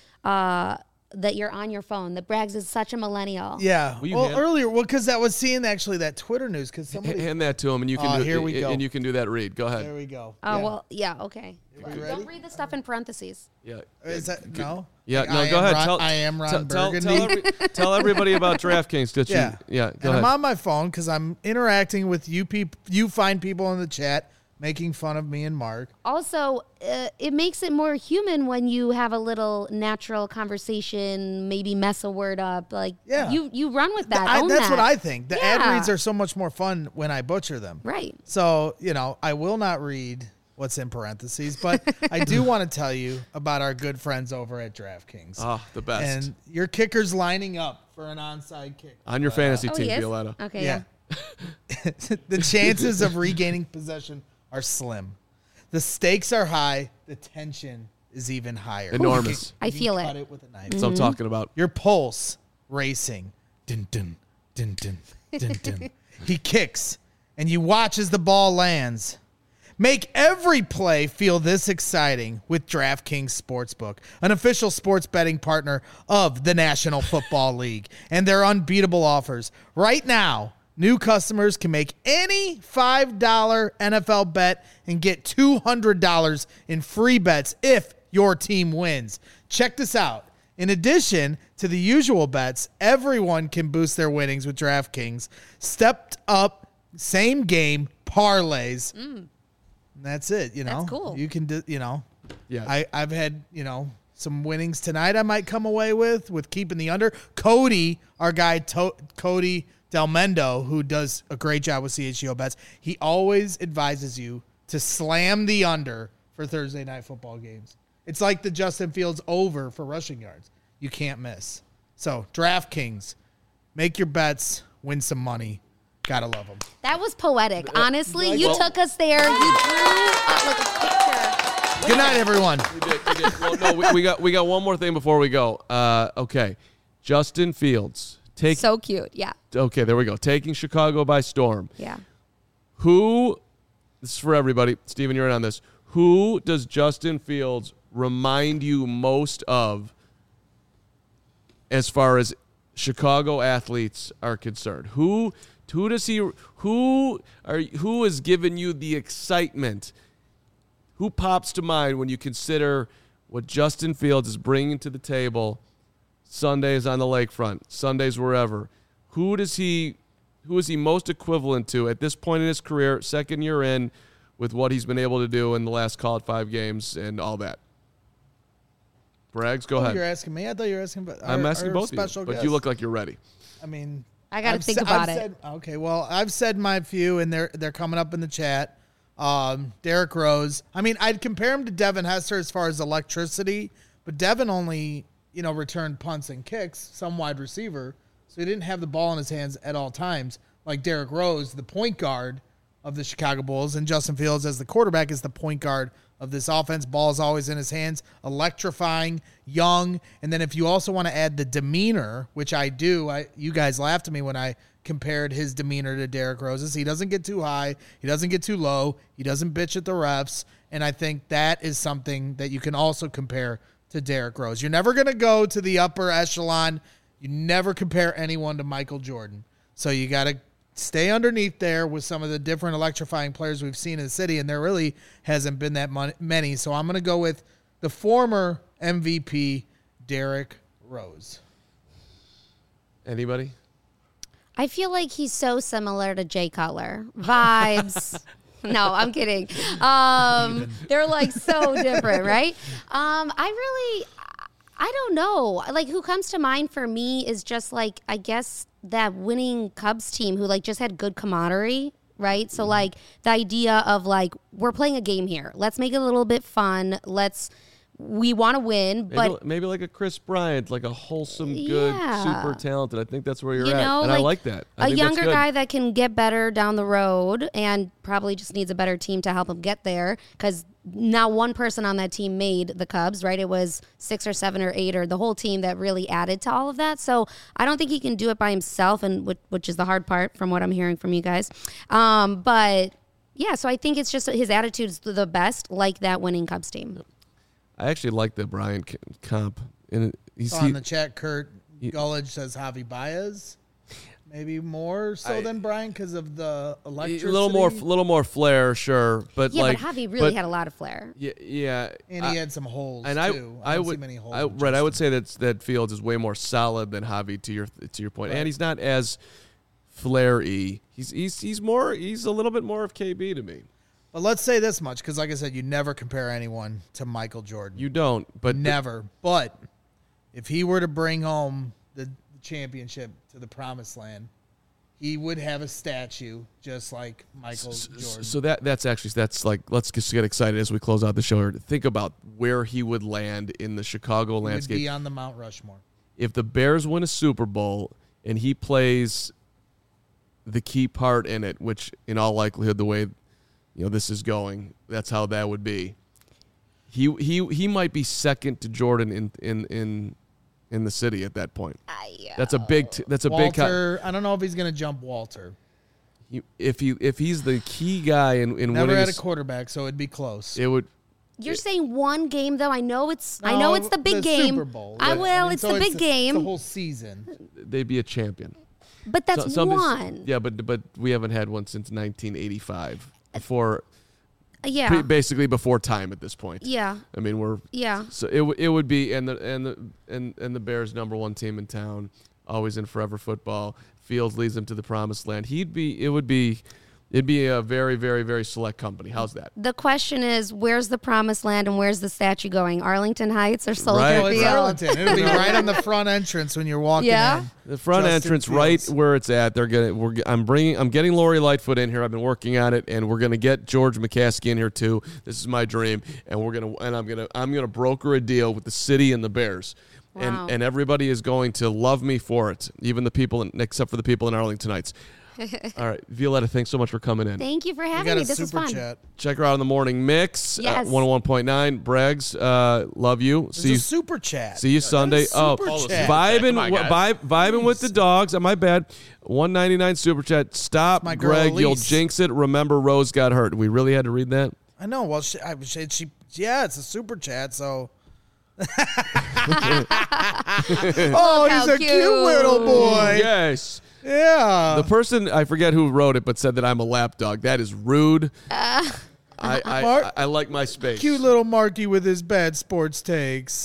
that you're on your phone. That Braggs is such a millennial. Yeah. Will you Well, hand- earlier, because I was seeing actually that Twitter news because somebody. Hand that to him, and you can. Here we go. And you can do that read. Go ahead. There we go. Oh, Yeah. well, yeah, okay. Are you ready? Don't read the stuff in parentheses. Yeah. Is that no? Yeah. Like, No. I Go am ahead. Ron, I am Ron Burgundy. Tell everybody about DraftKings. That Yeah. Yeah. Go And ahead. I'm on my phone because I'm interacting with you fine people in the chat making fun of me and Mark. Also, it makes it more human when you have a little natural conversation, maybe mess a word up. Like, Yeah. you run with that. That's own that. what I think. The ad Yeah. reads are so much more fun when I butcher them. Right. So, I will not read what's in parentheses, but I do want to tell you about our good friends over at DraftKings. Oh, the best. And your kicker's lining up for an onside kick. On your fantasy Oh, team, he is? Violetta. Okay, Yeah. yeah. The chances of regaining possession are slim. The stakes are high. The tension is even higher. Enormous. I You can feel cut it. with a knife. That's what I'm talking about. Your pulse racing. Dun, dun, dun, dun, dun, dun. He kicks, and you watch as the ball lands. Make every play feel this exciting with DraftKings Sportsbook, an official sports betting partner of the National Football League, and their unbeatable offers. Right now, new customers can make any $5 NFL bet and get $200 in free bets if your team wins. Check this out. In addition to the usual bets, everyone can boost their winnings with DraftKings. Stepped up, same game parlays. And that's it, That's cool. You can do, Yeah. I've had, some winnings tonight I might come away with keeping the under. Cody, our guy, Cody Del Mendo, who does a great job with CHGO bets, he always advises you to slam the under for Thursday night football games. It's like the Justin Fields over for rushing yards. You can't miss. So, DraftKings, make your bets, win some money. Gotta love them. That was poetic. Honestly, you took us there. You drew like a picture. Good night, everyone. We did. Well, no, we got one more thing before we go. Okay. Justin Fields. So cute. Yeah. Okay, there we go. Taking Chicago by storm. Yeah. This is for everybody. Steven, you're in on this. Who does Justin Fields remind you most of as far as Chicago athletes are concerned? Who has given you the excitement? Who pops to mind when you consider what Justin Fields is bringing to the table Sundays on the lakefront, Sundays wherever? Who is he most equivalent to at this point in his career, second year in, with what he's been able to do in the last, call it, 5 games and all that? Braggs, go ahead. You're asking me? I thought you were asking about I'm asking both of you, but you look like you're ready. I mean, I got to think about it. Okay, well, I've said my few, and they're coming up in the chat. Derrick Rose. I mean, I'd compare him to Devin Hester as far as electricity, but Devin only, returned punts and kicks, some wide receiver, so he didn't have the ball in his hands at all times. Like Derrick Rose, the point guard, of the Chicago Bulls, and Justin Fields as the quarterback is the point guard of this offense. Ball is always in his hands, electrifying, young. And then if you also want to add the demeanor, which I do, you guys laughed at me when I compared his demeanor to Derrick Rose's. He doesn't get too high. He doesn't get too low. He doesn't bitch at the refs. And I think that is something that you can also compare to Derrick Rose. You're never going to go to the upper echelon. You never compare anyone to Michael Jordan. So you got to stay underneath there with some of the different electrifying players we've seen in the city, and there really hasn't been that many. So I'm going to go with the former MVP, Derrick Rose. Anybody? I feel like he's so similar to Jay Cutler. Vibes. No, I'm kidding. They're like so different, right? I don't know. Like, who comes to mind for me is just like, I guess, that winning Cubs team who like just had good camaraderie, right? So like the idea of like, we're playing a game here. Let's make it a little bit fun. We want to win, but maybe like a Chris Bryant, like a wholesome, good, super talented. I think that's where you're at, and like I like that. A younger guy that can get better down the road, and probably just needs a better team to help him get there. Because not one person on that team made the Cubs, right? It was 6 or 7 or 8, or the whole team that really added to all of that. So I don't think he can do it by himself, and which is the hard part from what I'm hearing from you guys. But yeah, so I think it's just his attitude is the best, like that winning Cubs team. I actually like the Bryant comp. And on the chat, Kurt Gullidge says Javi Baez, maybe more so than Bryant because of the electricity. A little more flair, sure, but yeah, like, but Javi really had a lot of flair. Yeah, and he had some holes and too. I would see many holes. I would say that Fields is way more solid than Javi to your point, and he's not as flair-y. He's a little bit more of KB to me. But let's say this much, because like I said, you never compare anyone to Michael Jordan. You don't, but never. But if he were to bring home the championship to the promised land, he would have a statue just like Michael Jordan. So that's like, let's just get excited as we close out the show here. Think about where he would land in the Chicago landscape. He would be on the Mount Rushmore. If the Bears win a Super Bowl and he plays the key part in it, which in all likelihood, the way this is going, that's how that would be. He might be second to Jordan in the city at that point. That's a big. Walter. I don't know if he's going to jump Walter. If he's the key guy in never winning had a quarterback, so it'd be close. It would. You're saying one game though. I know it's the big game. Super Bowl. It's the big game. The whole season. They'd be a champion. But that's one. Yeah, but we haven't had one since 1985. Before, basically before time at this point. Yeah, I mean So it would be and the Bears #1 team in town, always in forever football. Fields leads them to the promised land. It'd be a very, very, very select company. How's that? The question is, where's the promised land and where's the statue going? Arlington Heights or Soldier Right. Field? Arlington. It'll be right on the front entrance when you're walking in. The front entrance, right where it's at. I'm getting Lori Lightfoot in here. I've been working on it, and we're gonna get George McCaskey in here too. This is my dream, and I'm gonna broker a deal with the city and the Bears. Wow. And everybody is going to love me for it, even the people, except for the people in Arlington Heights. All right, Violetta, thanks so much for coming in. Thank you for having me. This is fun. Chat. Check her out in the morning mix. Yes. 101.9. Braggs, love you. See you. Super chat. See you Sunday. Vibing with the dogs. My bad. $1.99 super chat. Stop, Greg. You'll jinx it. Remember, Rose got hurt. We really had to read that. I know. Well, it's a super chat. So. Oh, he's a cute little boy. Yes. Yeah. The person, I forget who wrote it, but said that I'm a lapdog. That is rude. I like my space. Cute little Marky with his bad sports takes.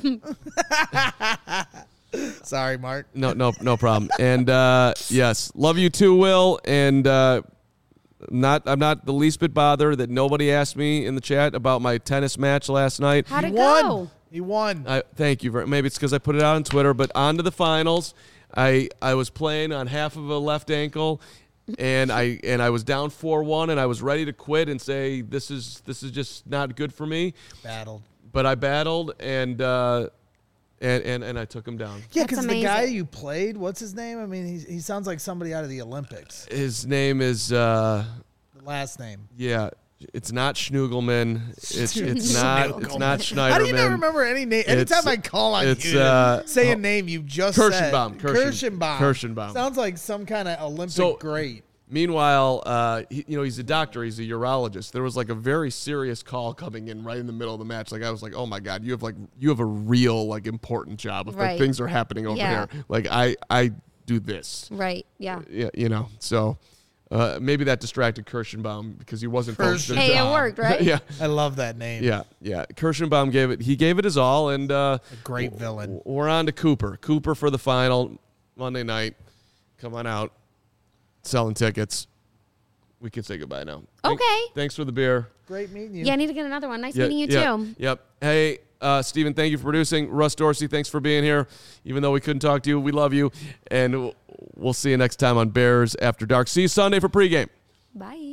Sorry, Mark. No problem. And yes, love you too, Will. And I'm not the least bit bothered that nobody asked me in the chat about my tennis match last night. How'd it go? He won. Thank you. Maybe it's because I put it out on Twitter, but on to the finals. I was playing on half of a left ankle, and I was down 4-1, and I was ready to quit and say this is just not good for me. But I battled, and I took him down. Yeah, because the guy you played, what's his name? I mean, he sounds like somebody out of the Olympics. His name is the last name. Yeah. It's not Schnugelman. It's not Schneiderman. How do you not remember any name? Anytime I call on you to say a name you just Kirschenbaum. said. Kirschenbaum. Sounds like some kind of Olympic great. Meanwhile, he's a doctor. He's a urologist. There was like a very serious call coming in right in the middle of the match. Like I was like, oh my God, you have a real like important job. If like, things are happening over here, like I do this. Right. Yeah. Yeah. So. Maybe that distracted Kirschenbaum because he wasn't focused. Hey, it worked, right? Yeah, I love that name. Yeah. Kirschenbaum gave it his all, and a great villain. We're on to Cooper. Cooper for the final Monday night. Come on out, selling tickets. We can say goodbye now. Okay. Thanks for the beer. Great meeting you. Yeah, I need to get another one. Nice meeting you too. Yep. Hey. Stephen, thank you for producing. Russ Dorsey, thanks for being here. Even though we couldn't talk to you, we love you. And we'll see you next time on Bears After Dark. See you Sunday for pregame. Bye.